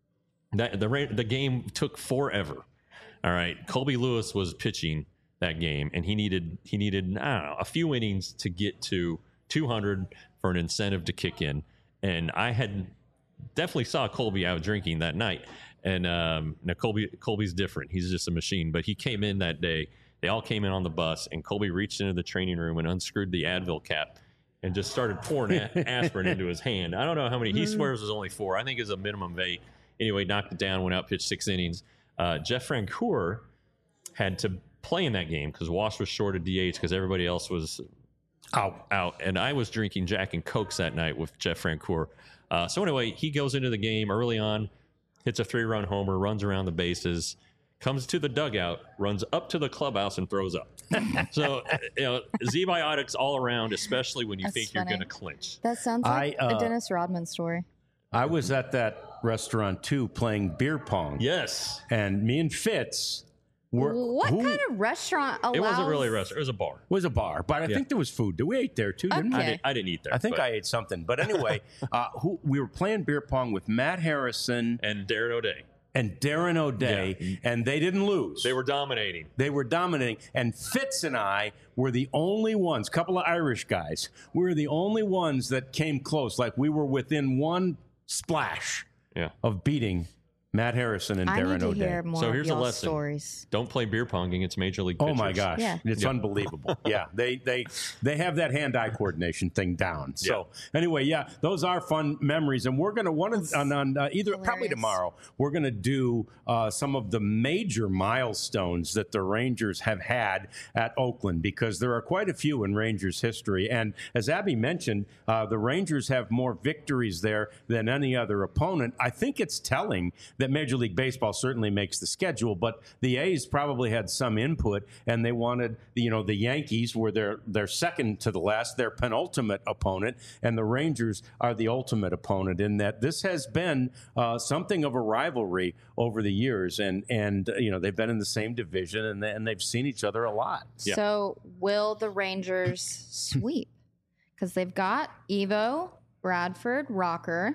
That the the game took forever. All right, Colby Lewis was pitching that game, and he needed he needed I don't know a few innings to get to two hundred for an incentive to kick in. And I had definitely saw Colby out drinking that night. And um, now Colby Colby's different. He's just a machine. But he came in that day. They all came in on the bus, and Colby reached into the training room and unscrewed the Advil cap and just started pouring a- aspirin into his hand. I don't know how many. He swears it was only four. I think it's a minimum of eight. Anyway, knocked it down, went out, pitched six innings. Uh, Jeff Francoeur had to play in that game because Walsh was short of D H because everybody else was out. out. And I was drinking Jack and Cokes that night with Jeff Francoeur. Uh, so anyway, he goes into the game early on, hits a three-run homer, runs around the bases, comes to the dugout, runs up to the clubhouse, and throws up. So, you know, Z-Biotics all around, especially when you That's think funny. you're going to clinch. That sounds like I, uh, a Dennis Rodman story. I was at that restaurant too, playing beer pong. Yes. And me and Fitz were. What who- kind of restaurant allows? It wasn't really a restaurant. It was a bar. was a bar, but I Yeah. think there was food. We ate there too, didn't I, we? Okay. did, I didn't eat there. I think but- I ate something. But anyway, uh, who, we were playing beer pong with Matt Harrison And Darren O'Day. and Darren O'Day, Yeah. and they didn't lose. They were dominating. They were dominating. And Fitz and I were the only ones, couple of Irish guys, we were the only ones that came close. Like we were within one splash Yeah. of beating Matt Harrison and I Darren need to O'Day. hear more So of here's a y'all's lesson. stories. Don't play beer pong against Major League Oh pitchers. my gosh, Yeah. it's Yeah. unbelievable. Yeah, they they they have that hand-eye coordination thing down. So anyway, yeah, those are fun memories, and we're gonna one of on, on uh, either probably hilarious. tomorrow. We're gonna do uh, some of the major milestones that the Rangers have had at Oakland because there are quite a few in Rangers history. And as Abby mentioned, uh, the Rangers have more victories there than any other opponent. I think it's telling that Major League Baseball certainly makes the schedule, but the A's probably had some input, and they wanted, you know, the Yankees were their their second to the last, their penultimate opponent, and the Rangers are the ultimate opponent. In that this has been uh, something of a rivalry over the years, and and uh, you know they've been in the same division, and they, and they've seen each other a lot. Yeah. So will the Rangers sweep? Because they've got Evo, Bradford, Rocker.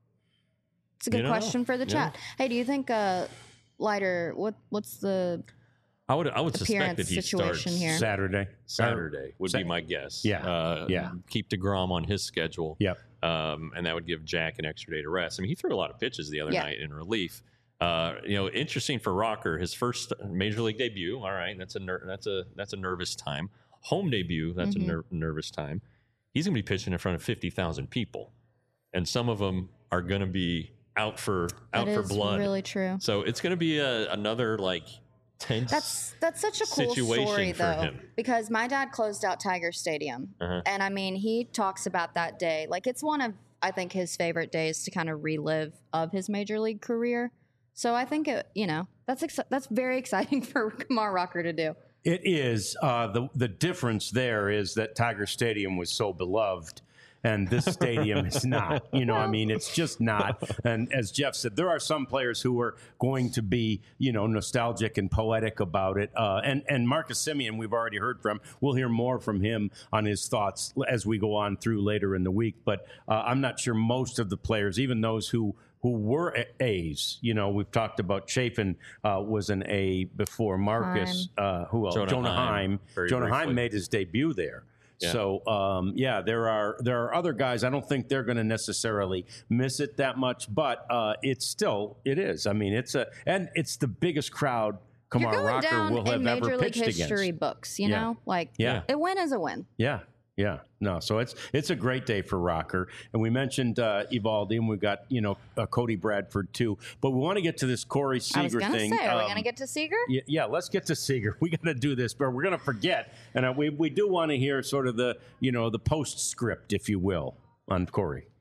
It's a good You know, question for the yeah. chat. Hey, do you think uh, Leiter? What what's the I would I would suspect appearance that he situation starts here? Saturday, Saturday would Sa- be my guess. Yeah. Uh, Yeah. Keep DeGrom on his schedule. Yep. Um, and that would give Jack an extra day to rest. I mean, he threw a lot of pitches the other Yeah. night in relief. Uh, you know, interesting for Rocker, his first major league debut. All right, that's a ner- that's a that's a nervous time. Home debut, that's Mhm. a ner- nervous time. He's going to be pitching in front of fifty thousand people, and some of them are going to be out for out That for is blood. really true. So it's going to be a, another like tense. That's that's such a cool situation story for though, him. because my dad closed out Tiger Stadium, Uh-huh. and I mean he talks about that day like it's one of I think his favorite days to kind of relive of his major league career. So I think it, you know that's exci- that's very exciting for Kumar Rocker to do. It is. Uh, the the difference there is that Tiger Stadium was so beloved, and this stadium is not. You know, I mean, it's just not. And as Jeff said, there are some players who are going to be, you know, nostalgic and poetic about it. Uh, and and Marcus Semien, we've already heard from. We'll hear more from him on his thoughts as we go on through later in the week. But uh, I'm not sure most of the players, even those who. who were A's. You know, we've talked about Chafin uh, was an A before Marcus. Uh, who else? Jonah Jonah Heim, Heim. very Jonah briefly. Heim made his debut there. Yeah. So, um, yeah, there are there are other guys. I don't think they're going to necessarily miss it that much, but uh, it's still, it is. I mean, it's a, and it's the biggest crowd You're Kumar going Rocker down will have in Major ever League pitched history against. books. You Yeah. know, like Yeah. a win is a win. Yeah. Yeah, no. So it's it's a great day for Rocker, and we mentioned uh, Evaldi, and we got you know uh, Cody Bradford too. But we want to get to this Corey Seager I was gonna thing. say, are we Um, gonna get to Seager? Yeah, yeah, let's get to Seager. We got to do this, but we're going to forget, and uh, we we do want to hear sort of the you know the postscript, if you will, on Corey.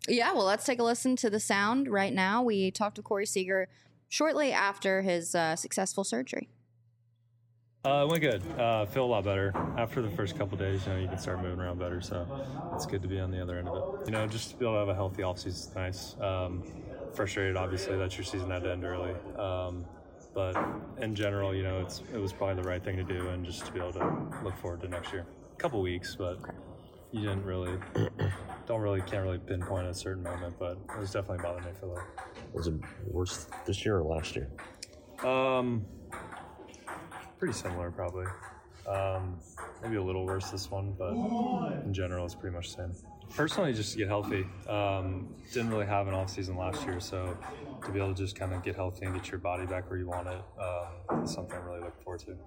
Yeah, well, let's take a listen to the sound right now. We talked to Corey Seager shortly after his uh, successful surgery. Uh, it went good. Uh, feel a lot better after the first couple days. You know, you can start moving around better, so it's good to be on the other end of it. You know, just to be able to have a healthy offseason is nice. Um, frustrated, obviously, that your season had to end early, um, but in general, you know, it's it was probably the right thing to do, and just to be able to look forward to next year. A couple weeks, but you didn't really, don't really, can't really pinpoint a certain moment, but it was definitely bothering me for a little. Was it worse this year or last year? Um. Pretty similar, probably. Um, maybe a little worse this one, but in general, it's pretty much the same. Personally, just to get healthy. Um, didn't really have an off season last year, so to be able to just kind of get healthy and get your body back where you want it um, is something I'm really looking forward to.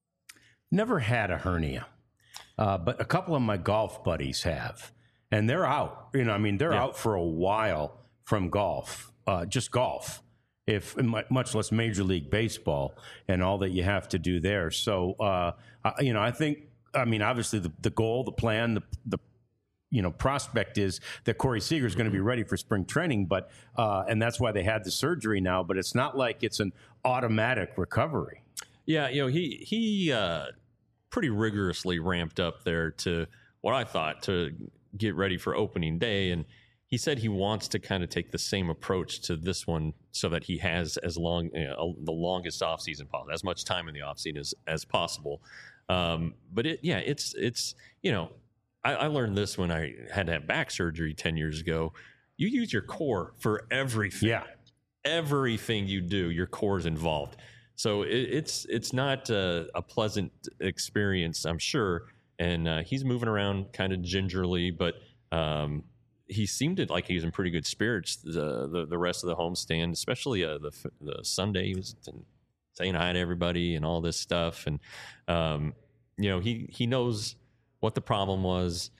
Never had a hernia, uh, but a couple of my golf buddies have, and they're out. You know, I mean, they're yeah. out for a while from golf, uh, just golf. If much less Major League Baseball and all that you have to do there. So, uh, you know, I think, I mean, obviously the, the goal, the plan, the, the, you know, prospect is that Corey Seager is going to be ready for spring training, but, uh, and that's why they had the surgery now, but it's not like it's an automatic recovery. Yeah. You know, he, he, uh, pretty rigorously ramped up there to what I thought to get ready for opening day. And he said he wants to kind of take the same approach to this one so that he has as long, you know, the longest offseason possible, as much time in the offseason as, as possible. Um, but it, yeah, it's, it's, you know, I, I learned this when I had to have back surgery ten years ago. You use your core for everything. Yeah. Everything you do, your core is involved. So it, it's, it's not a, a pleasant experience, I'm sure. And uh, he's moving around kind of gingerly, but, um, he seemed to, like he was in pretty good spirits the the, the rest of the homestand, especially uh, the the Sunday. He was saying hi to everybody and all this stuff, and um, you know he he knows what the problem was,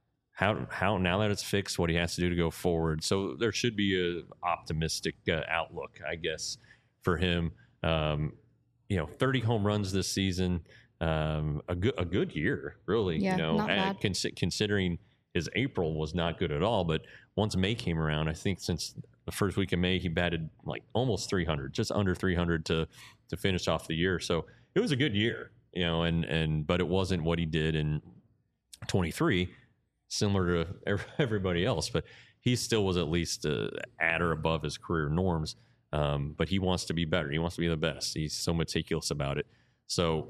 how how now that it's fixed, what he has to do to go forward. So there should be a optimistic uh, outlook, I guess, for him. Um, you know, thirty home runs this season, um, a good a good year, really. Yeah, you know, not bad. Cons- considering. His April was not good at all, but once May came around, I think since the first week of May, he batted like almost three hundred, just under three hundred to to finish off the year. So it was a good year, you know, and and but it wasn't what he did in twenty-three, similar to everybody else. But he still was at least uh, at or above his career norms. Um, but he wants to be better. He wants to be the best. He's so meticulous about it. So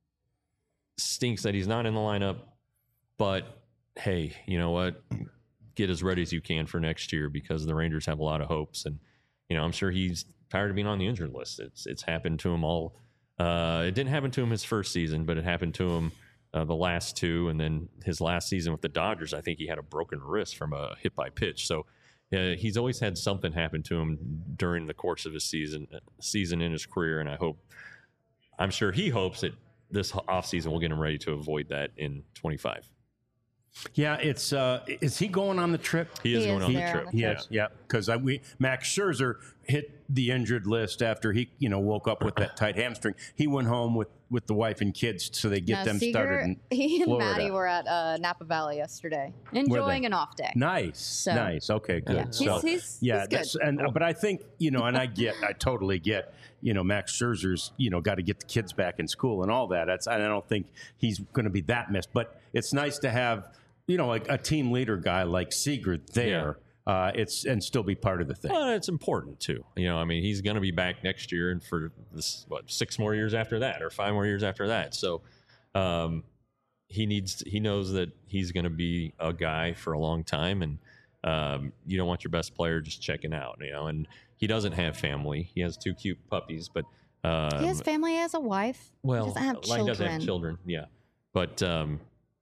stinks that he's not in the lineup, but hey, you know what? Get as ready as you can for next year because the Rangers have a lot of hopes, and you know I'm sure he's tired of being on the injured list. It's it's happened to him all. Uh, it didn't happen to him his first season, but it happened to him uh, the last two, and then his last season with the Dodgers. I think he had a broken wrist from a hit by pitch. So uh, he's always had something happen to him during the course of his season season in his career, and I hope, I'm sure he hopes that this offseason will get him ready to avoid that in twenty-five. Yeah, it's uh, is he going on the trip? He is He going is on the there trip. on the Yes, yeah, because we Max Scherzer hit the injured list after he, you know, woke up with that tight hamstring. He went home with, with the wife and kids so they get No, them Seager, started in he and Florida. Maddie were at uh, Napa Valley yesterday, enjoying they? an off day. Nice, So- nice. Okay, good. Yeah, So, he's, he's, yeah, he's good. that's, and but I think you know, and I get, I totally get, you know, Max Scherzer's, you know, got to get the kids back in school and all that. That's, I don't think he's going to be that missed, but it's nice to have, you know, a, a team leader guy like Seager there. Uh, it's and still be part of the thing. Well, it's important too. You know, I mean, he's going to be back next year, and for this, what, six more years after that, or five more years after that. So, um, he needs, he knows that he's going to be a guy for a long time, and um, you don't want your best player just checking out. You know, and he doesn't have family. He has two cute puppies, but um, he has family, he has a wife. well, he doesn't have like, children. he doesn't have children. Yeah, but um,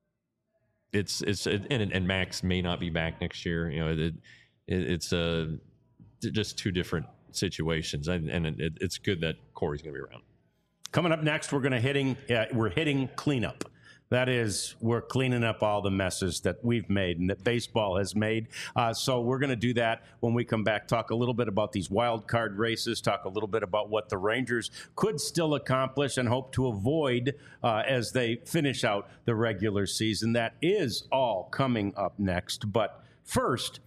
it's it's it, and and Max may not be back next year. You know, it, it it's uh, just two different situations, and, and it, it's good that Corey's going to be around. Coming up next, we're going to hitting uh, we're hitting cleanup. That is, we're cleaning up all the messes that we've made and that baseball has made. Uh, so we're going to do that when we come back, talk a little bit about these wild card races, talk a little bit about what the Rangers could still accomplish and hope to avoid uh, as they finish out the regular season. That is all coming up next. But first,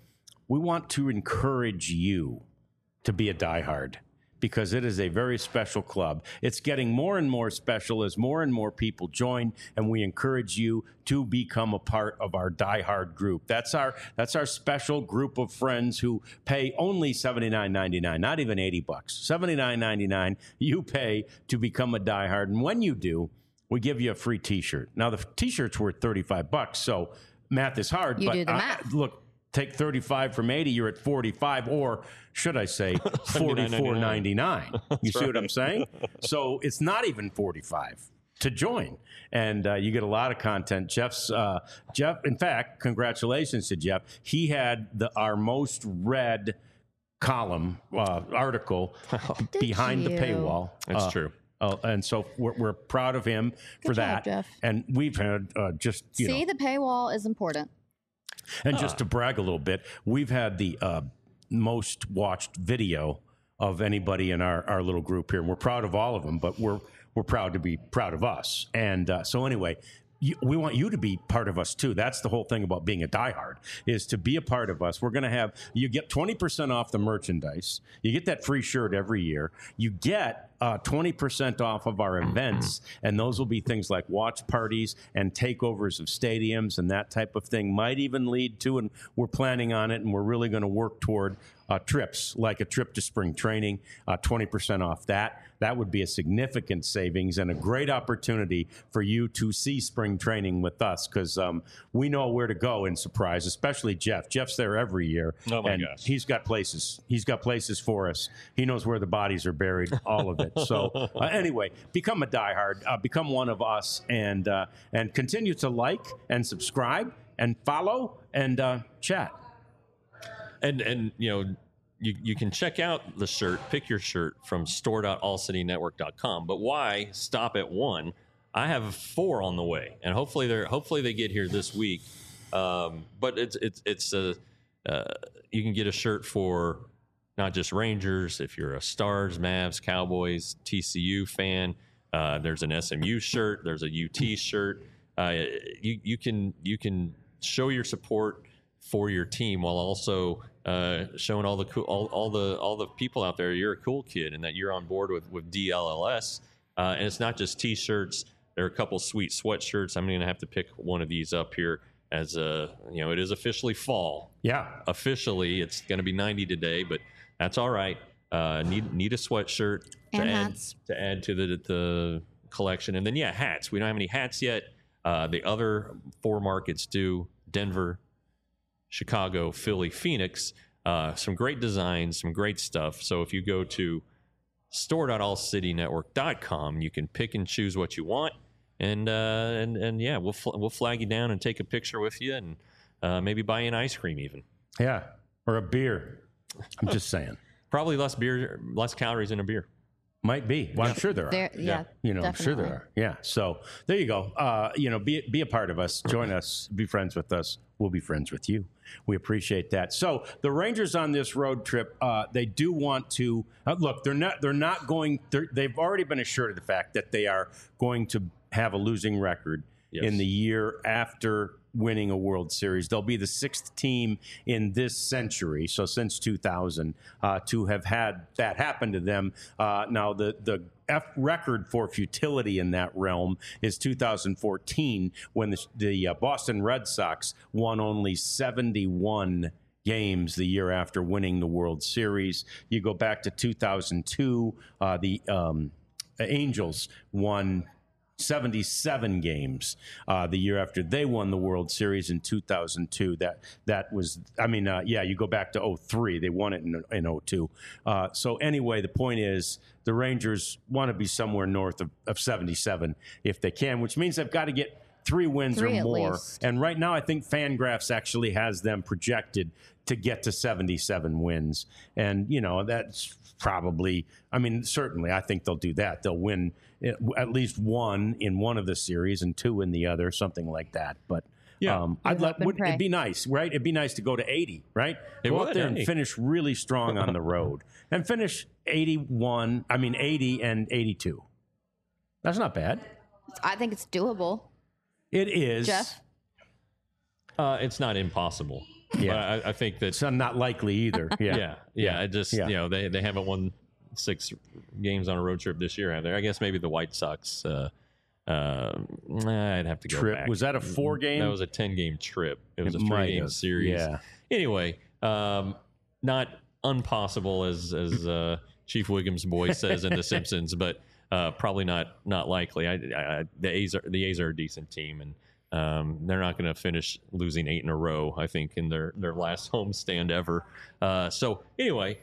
we want to encourage you to be a diehard, because it is a very special club. It's getting more and more special as more and more people join, and we encourage you to become a part of our diehard group. That's our that's our special group of friends who pay only seventy-nine ninety-nine, not even eighty bucks. seventy-nine ninety-nine you pay to become a diehard, and when you do, we give you a free T-shirt. Now the T-shirt's worth thirty-five bucks, so math is hard. You but do the uh, math. Look, take thirty-five from eighty, you're at forty-five, or should I say forty-four ninety-nine. You see what I'm saying? So it's not even forty-five to join, and uh, you get a lot of content. Jeff's uh, Jeff. In fact, congratulations to Jeff. He had the our most read column uh, article Did behind you? the paywall. That's Uh, true. Uh, and so we're, we're proud of him for Good job, that. Jeff. And we've had uh, just you See, know. the paywall is important. And just to brag a little bit, we've had the uh, most watched video of anybody in our, our little group here. And we're proud of all of them, but we're we're proud to be proud of us. And uh, so anyway, you, we want you to be part of us too. That's the whole thing about being a diehard, is to be a part of us. We're going to have, you get twenty percent off the merchandise. You get that free shirt every year. You get uh, twenty percent off of our events, and those will be things like watch parties and takeovers of stadiums and that type of thing. Might even lead to, and we're planning on it, and we're really going to work toward uh, trips, like a trip to spring training, uh, twenty percent off that. That would be a significant savings and a great opportunity for you to see spring training with us, because um, we know where to go in Surprise, especially Jeff. Jeff's there every year. Oh, my and gosh. He's got places. He's got places for us. He knows where the bodies are buried, all of it. So uh, anyway, become a diehard, uh, become one of us, and uh, and continue to like and subscribe and follow and uh, chat. And and you know, you, you can check out the shirt, pick your shirt from store dot all city network dot com. But why stop at one? I have four on the way, and hopefully they're hopefully they get here this week. Um, but it's it's it's a uh, you can get a shirt for not just Rangers. If you're a Stars, Mavs, Cowboys, T C U fan, uh, there's an S M U shirt. There's a U T shirt. Uh, you you can you can show your support for your team while also uh, showing all the cool, all, all the all the people out there you're a cool kid and that you're on board with with D L L S. Uh, and it's not just T-shirts. There are a couple sweet sweatshirts. I'm going to have to pick one of these up here as a you know it is officially fall. Yeah. Officially, it's going to be ninety today, but that's all right. Uh, need need a sweatshirt to And add hats. to add to the the collection, and then yeah, hats. We don't have any hats yet. Uh, the other four markets do: Denver, Chicago, Philly, Phoenix. Uh, some great designs, some great stuff. So if you go to store dot all city network dot com, you can pick and choose what you want, and uh, and and yeah, we'll fl- we'll flag you down and take a picture with you, and uh, maybe buy you an ice cream even. Yeah. Or a beer. I'm just saying. Probably less beer, less calories in a beer. Might be. Well, I'm sure there are. There, yeah, You know, I'm sure there definitely. are. Yeah. So there you go. Uh, you know, be be a part of us. Join us. Be friends with us. We'll be friends with you. We appreciate that. So the Rangers on this road trip, uh, they do want to uh, look. They're not. They're not going. They're, they've already been assured of the fact that they are going to have a losing record Yes. in the year after winning a World Series. They'll be the sixth team in this century, so since two thousand, uh, to have had that happen to them. Uh, now, the the F record for futility in that realm is two thousand fourteen, when the, the uh, Boston Red Sox won only seventy-one games the year after winning the World Series. You go back to two thousand two, uh, the um, Angels won seventy-seven games uh, the year after they won the World Series in two thousand two. That that was, I mean, uh, yeah, you go back to oh three. They won it in, in oh two. Uh, so anyway, the point is the Rangers want to be somewhere north of, of seventy-seven if they can, which means they've got to get three wins Three or at more. least. And right now, I think Fangraphs actually has them projected to get to seventy-seven wins. And, you know, that's probably, I mean, certainly, I think they'll do that. They'll win at least one in one of the series and two in the other, something like that. But Yeah. um, We I'd hope let, and would, pray. it'd be nice, right? It'd be nice to go to eighty, right? It go out would, there and hey. finish really strong on the road and finish eighty-one, I mean, eighty and eighty-two. That's not bad. I think it's doable. It is. Jeff? Uh, it's not impossible. Yeah. But I, I think that It's not likely either. Yeah. yeah, yeah. It just Yeah. you know they they haven't won six games on a road trip this year, have they? I guess maybe the White Sox. Uh, uh, I'd have to go Trip. back. Was that a four game? That was a ten game trip. It was It a might three game have. series. Yeah. Anyway, um, not impossible as as uh, Chief Wiggum's boy says in The Simpsons, but uh, probably not not likely. I, I, the A's are the A's are a decent team, and um, they're not going to finish losing eight in a row. I think in their their last homestand ever. Uh, so anyway,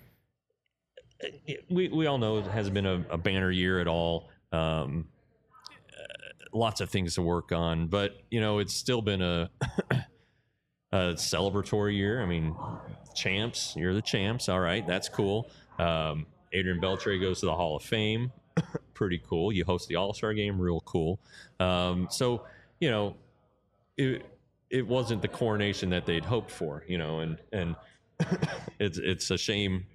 we we all know it hasn't been a, a banner year at all. Um, uh, lots of things to work on, but you know it's still been a a celebratory year. I mean, champs, you're the champs. All right, that's cool. Um, Adrian Beltre goes to the Hall of Fame. Pretty cool. You host the All-Star game. Real cool. Um, so, you know, it it wasn't the coronation that they'd hoped for, you know, and, and it's it's a shame.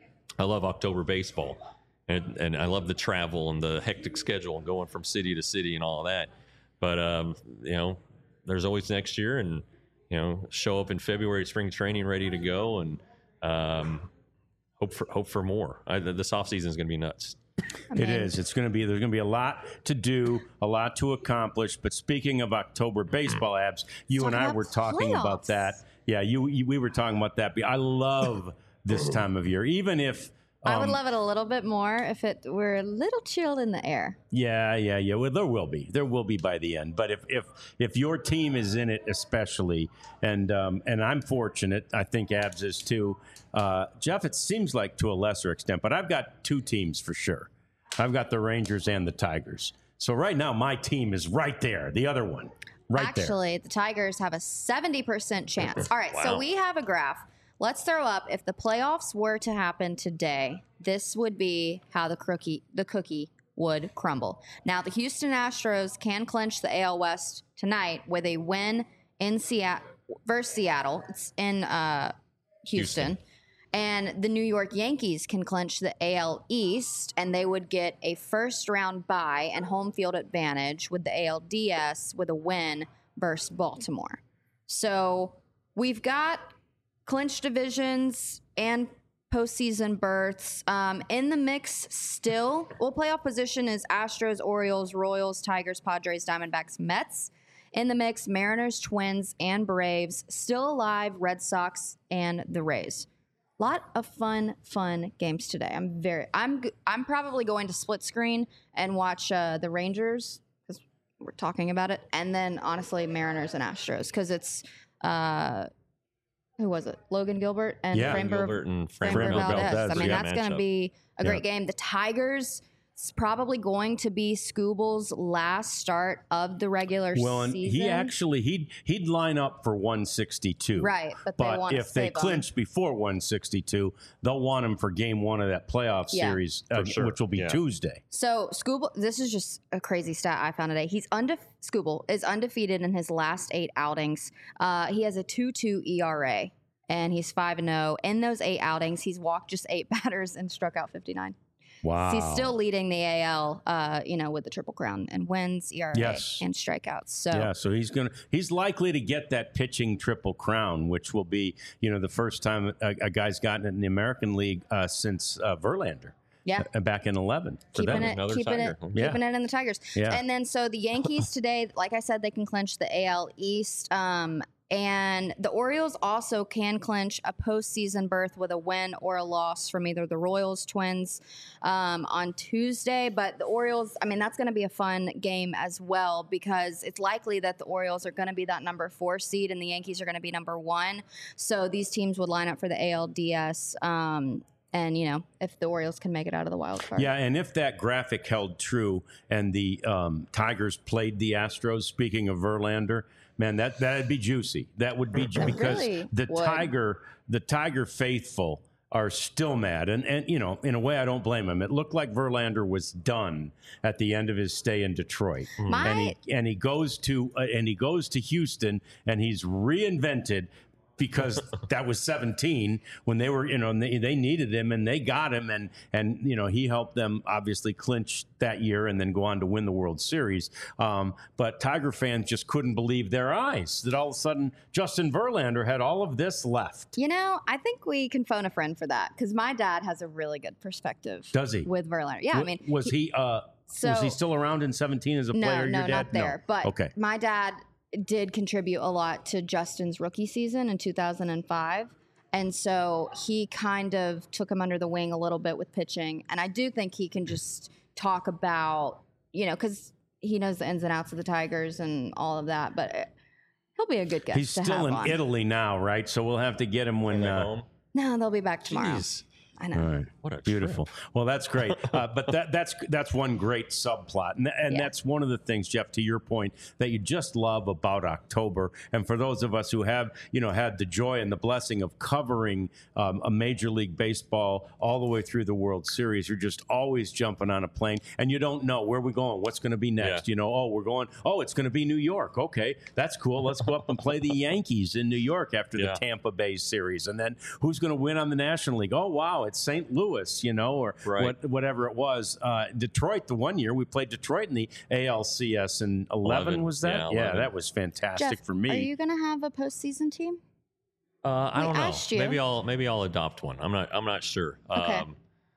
I love October baseball, and, and I love the travel and the hectic schedule and going from city to city and all of that. But, um, you know, there's always next year, and, you know, show up in February, spring training, ready to go, and um, hope for hope for more. I, this offseason is going to be nuts. I It mean, is. It's going to be. There's going to be a lot to do, a lot to accomplish. But speaking of October baseball, Abs, you Talk and I about were talking about playoffs. that. Yeah, you, you. We were talking about that. I love this time of year, even if. I would um, love it a little bit more if it were a little chilled in the air. Yeah, yeah, yeah. Well, there will be. There will be by the end. But if if if your team is in it, especially, and um, and I'm fortunate, I think Abs is too. Uh, Jeff, it seems like to a lesser extent, but I've got two teams for sure. I've got the Rangers and the Tigers. So right now, my team is right there. The other one, right there. Actually, the Tigers have a seventy percent chance. All right, so Wow. we have a graph. Let's throw up if the playoffs were to happen today, this would be how the cookie the cookie would crumble. Now, the Houston Astros can clinch the A L West tonight with a win in Seattle versus Seattle. It's in uh, Houston. Houston. And the New York Yankees can clinch the A L East, and they would get a first round bye and home field advantage with the A L D S with a win versus Baltimore. So we've got clinched divisions and postseason berths. Um, in the mix still, well, playoff position is Astros, Orioles, Royals, Tigers, Padres, Diamondbacks, Mets. In the mix, Mariners, Twins, and Braves. Still alive, Red Sox, and the Rays. Lot of fun, fun games today. I'm very, I'm, g- I'm probably going to split screen and watch uh, the Rangers because we're talking about it, and then honestly Mariners and Astros because it's, uh, who was it? Logan Gilbert and Yeah, Framber, Gilbert and Framber Framber Valdez. Valdez, I mean, yeah. that's going to matchup. be a great Yeah. game. The Tigers. It's probably going to be Scooble's last start of the regular Well, and season. he actually he'd he'd line up for one sixty-two. Right, but they But wanna if they save him. clinch before one sixty-two, they'll want him for game one of that playoff Yeah. series, uh, sure. which will be Yeah. Tuesday. So Scooble, this is just a crazy stat I found today. He's undefe- Scooble is undefeated in his last eight outings. Uh, he has a two two E R A, and he's five and zero. In those eight outings, he's walked just eight batters and struck out fifty-nine. Wow. He's still leading the A L, uh, you know, with the Triple Crown and wins, E R A, Yes. and strikeouts. So Yeah, so he's gonna he's likely to get that pitching triple crown, which will be you know the first time a, a guy's gotten it in the American League uh, since uh, Verlander. yeah. uh, back in eleven. For keeping them. it, Another keeping Tiger. it, Yeah. keeping it in the Tigers. Yeah. And then so the Yankees today, like I said, they can clinch the A L East. Um, and the Orioles also can clinch a postseason berth with a win or a loss from either the Royals, Twins um, on Tuesday. But the Orioles, I mean, that's going to be a fun game as well because it's likely that the Orioles are going to be that number four seed and the Yankees are going to be number one. So these teams would line up for the A L D S. Um, and, you know, if the Orioles can make it out of the wild card. Yeah, and if that graphic held true and the um, Tigers played the Astros, speaking of Verlander, man, that that'd be juicy. That would be ju- It because really the would. Tiger, the Tiger faithful are still mad, and and you know, in a way, I don't blame him. It looked like Verlander was done at the end of his stay in Detroit, My- and he and he goes to uh, and he goes to Houston, and he's reinvented because that was seventeen when they were, you know, and they, they needed him and they got him. And, and, you know, he helped them obviously clinch that year and then go on to win the World Series. Um, but Tiger fans just couldn't believe their eyes that all of a sudden Justin Verlander had all of this left. You know, I think we can phone a friend for that because my dad has a really good perspective. Does he? With Verlander. Yeah, I mean. Was he, he uh, so, was he still around in seventeen as a no, player? No, your dad? not there. No. But okay. my dad did contribute a lot to Justin's rookie season in two thousand five. And so he kind of took him under the wing a little bit with pitching. And I do think he can just talk about, you know, because he knows the ins and outs of the Tigers and all of that. But he'll be a good guest. He's to still have in on. Italy now, right? So we'll have to get him when. Uh, home. No, they'll be back tomorrow. Jeez. I know. All right. What a Beautiful. trip. Well, that's great. Uh, but that, that's that's one great subplot. And, and Yeah. that's one of the things, Jeff, to your point, that you just love about October. And for those of us who have, you know, had the joy and the blessing of covering um, a Major League Baseball all the way through the World Series, you're just always jumping on a plane. And you don't know where we're going, what's going to be next. Yeah. You know, oh, we're going, oh, it's going to be New York. Okay, that's cool. Let's go up and play the Yankees in New York after Yeah. the Tampa Bay series. And then who's going to win on the National League? Oh, wow, it's Saint Louis. You know, or Right. what, whatever it was. Uh, Detroit, the one year we played Detroit in the A L C S in eleven, eleven. was that? Yeah, Yeah, eleven. that was fantastic Jeff, for me. Are you going to have a postseason team? Uh, I We don't know. asked you. Maybe I'll maybe I'll adopt one. I'm not I'm not sure. Okay. Um,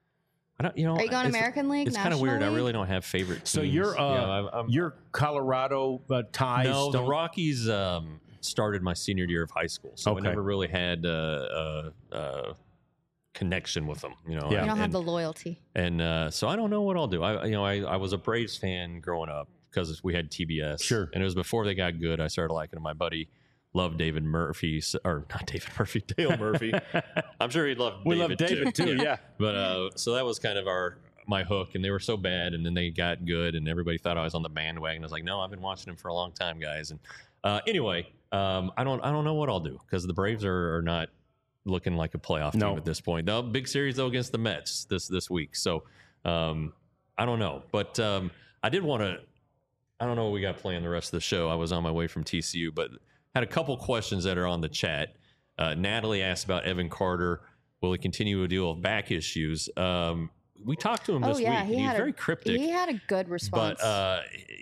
I don't. You know. Are you going it's- American League, It's kind of National weird. I League? really don't have favorite teams. so you're uh, You know, I'm- I'm- you're Colorado uh, ties. no, the don't- Rockies um, started my senior year of high school, so Okay. I never really had uh, uh, uh, connection with them. You know. Yeah. You don't and, have the loyalty. and uh, so I don't know what I'll do. I you know I, I was a Braves fan growing up because we had T B S. Sure. And it was before they got good. I started liking them. My buddy loved David Murphy, so- or not David Murphy, Dale Murphy. I'm sure he loved We David love David too. Yeah. But uh, so that was kind of our my hook, and they were so bad, and then they got good, and everybody thought I was on the bandwagon. I was like, no, I've been watching them for a long time, guys. And uh, anyway, um, I don't I don't know what I'll do because the Braves are, are not looking like a playoff No. team at this point. The big series though against the Mets this this week, so um, I don't know. But um, I did want to. I don't know what we got playing the rest of the show. I was on my way from T C U, but had a couple questions that are on the chat. Uh, Natalie asked about Evan Carter. Will he continue to deal with back issues? Um, we talked to him Oh, this yeah. week. He and he's had, very a, cryptic. he had a good response. But uh,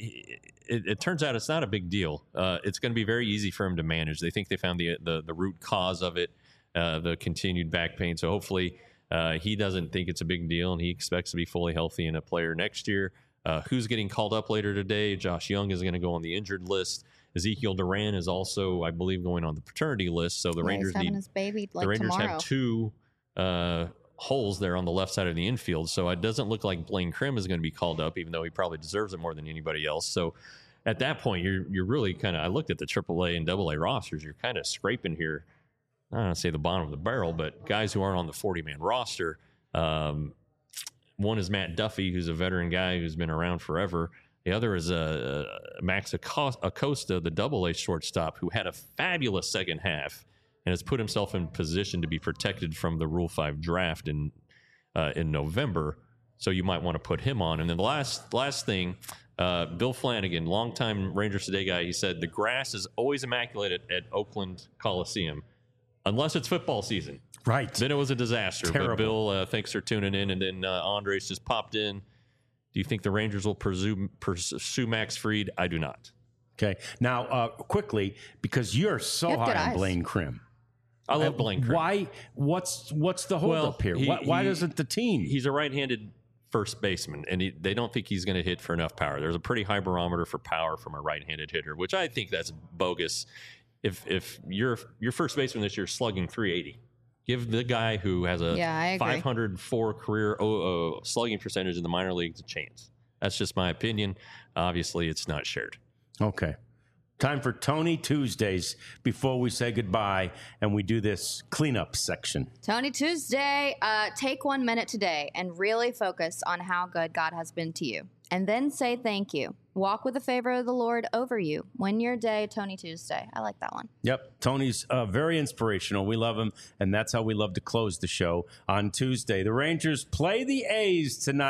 it, it turns out it's not a big deal. Uh, it's going to be very easy for him to manage. They think they found the the, the root cause of it, uh, the continued back pain. So hopefully uh, he doesn't think it's a big deal, and he expects to be fully healthy and a player next year. Uh, who's getting called up later today? Josh Young is going to go on the injured list. Ezekiel Duran is also, I believe, going on the paternity list. So the Yeah, Rangers he's having need his baby like the Rangers tomorrow. have two uh, holes there on the left side of the infield. So it doesn't look like Blaine Krim is going to be called up, even though he probably deserves it more than anybody else. So at that point, you're you're really kind of. I looked at the triple A and double A rosters. You're kind of scraping here. I don't want to say the bottom of the barrel, but guys who aren't on the forty man roster. Um, one is Matt Duffy, who's a veteran guy who's been around forever. The other is uh, Max Acosta, the double A shortstop, who had a fabulous second half and has put himself in position to be protected from the Rule five draft in uh, in November. So you might want to put him on. And then the last last thing, uh, Bill Flanagan, longtime Rangers Today guy, he said the grass is always immaculate at, at Oakland Coliseum, unless it's football season. Right. Then it was a disaster. Terrible. But Bill, uh, thanks for tuning in. And then uh, Andres just popped in. Do you think the Rangers will pursue, pursue Max Fried? I do not. Okay. Now, uh, quickly, because you're so You have good high on eyes. Blaine Krim. I love Blaine Krim. Why? What's what's the Well, holdup here? he- why why he- doesn't the team? He's a right-handed first baseman, and he, they don't think he's going to hit for enough power. There's a pretty high barometer for power from a right-handed hitter, which I think that's bogus. If if your your first baseman this year is slugging three eighty, give the guy who has a Yeah, I agree. five hundred four career oh, uh, slugging percentage in the minor leagues a chance. That's just my opinion. Obviously, it's not shared. Okay. Time for Tony Tuesdays before we say goodbye and we do this cleanup section. Tony Tuesday, uh, take one minute today and really focus on how good God has been to you. And then say thank you. Walk with the favor of the Lord over you. Win your day, Tony Tuesday. I like that one. Yep. Tony's uh, very inspirational. We love him, and that's how we love to close the show on Tuesday. The Rangers play the A's tonight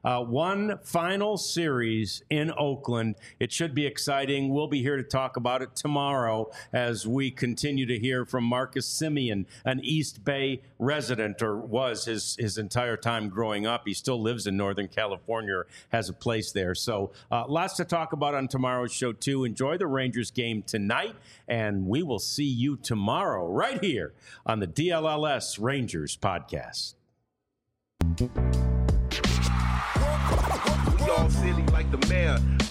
Uh, one final series in Oakland. It should be exciting. We'll be here to talk about it tomorrow as we continue to hear from Marcus Semien, an East Bay resident, or was his, his entire time growing up. He still lives in Northern California, has a place there. So uh, lots to talk about on tomorrow's show, too. Enjoy the Rangers game tonight, and we will see you tomorrow right here on the D L L S Rangers podcast. Y'all silly like the mayor.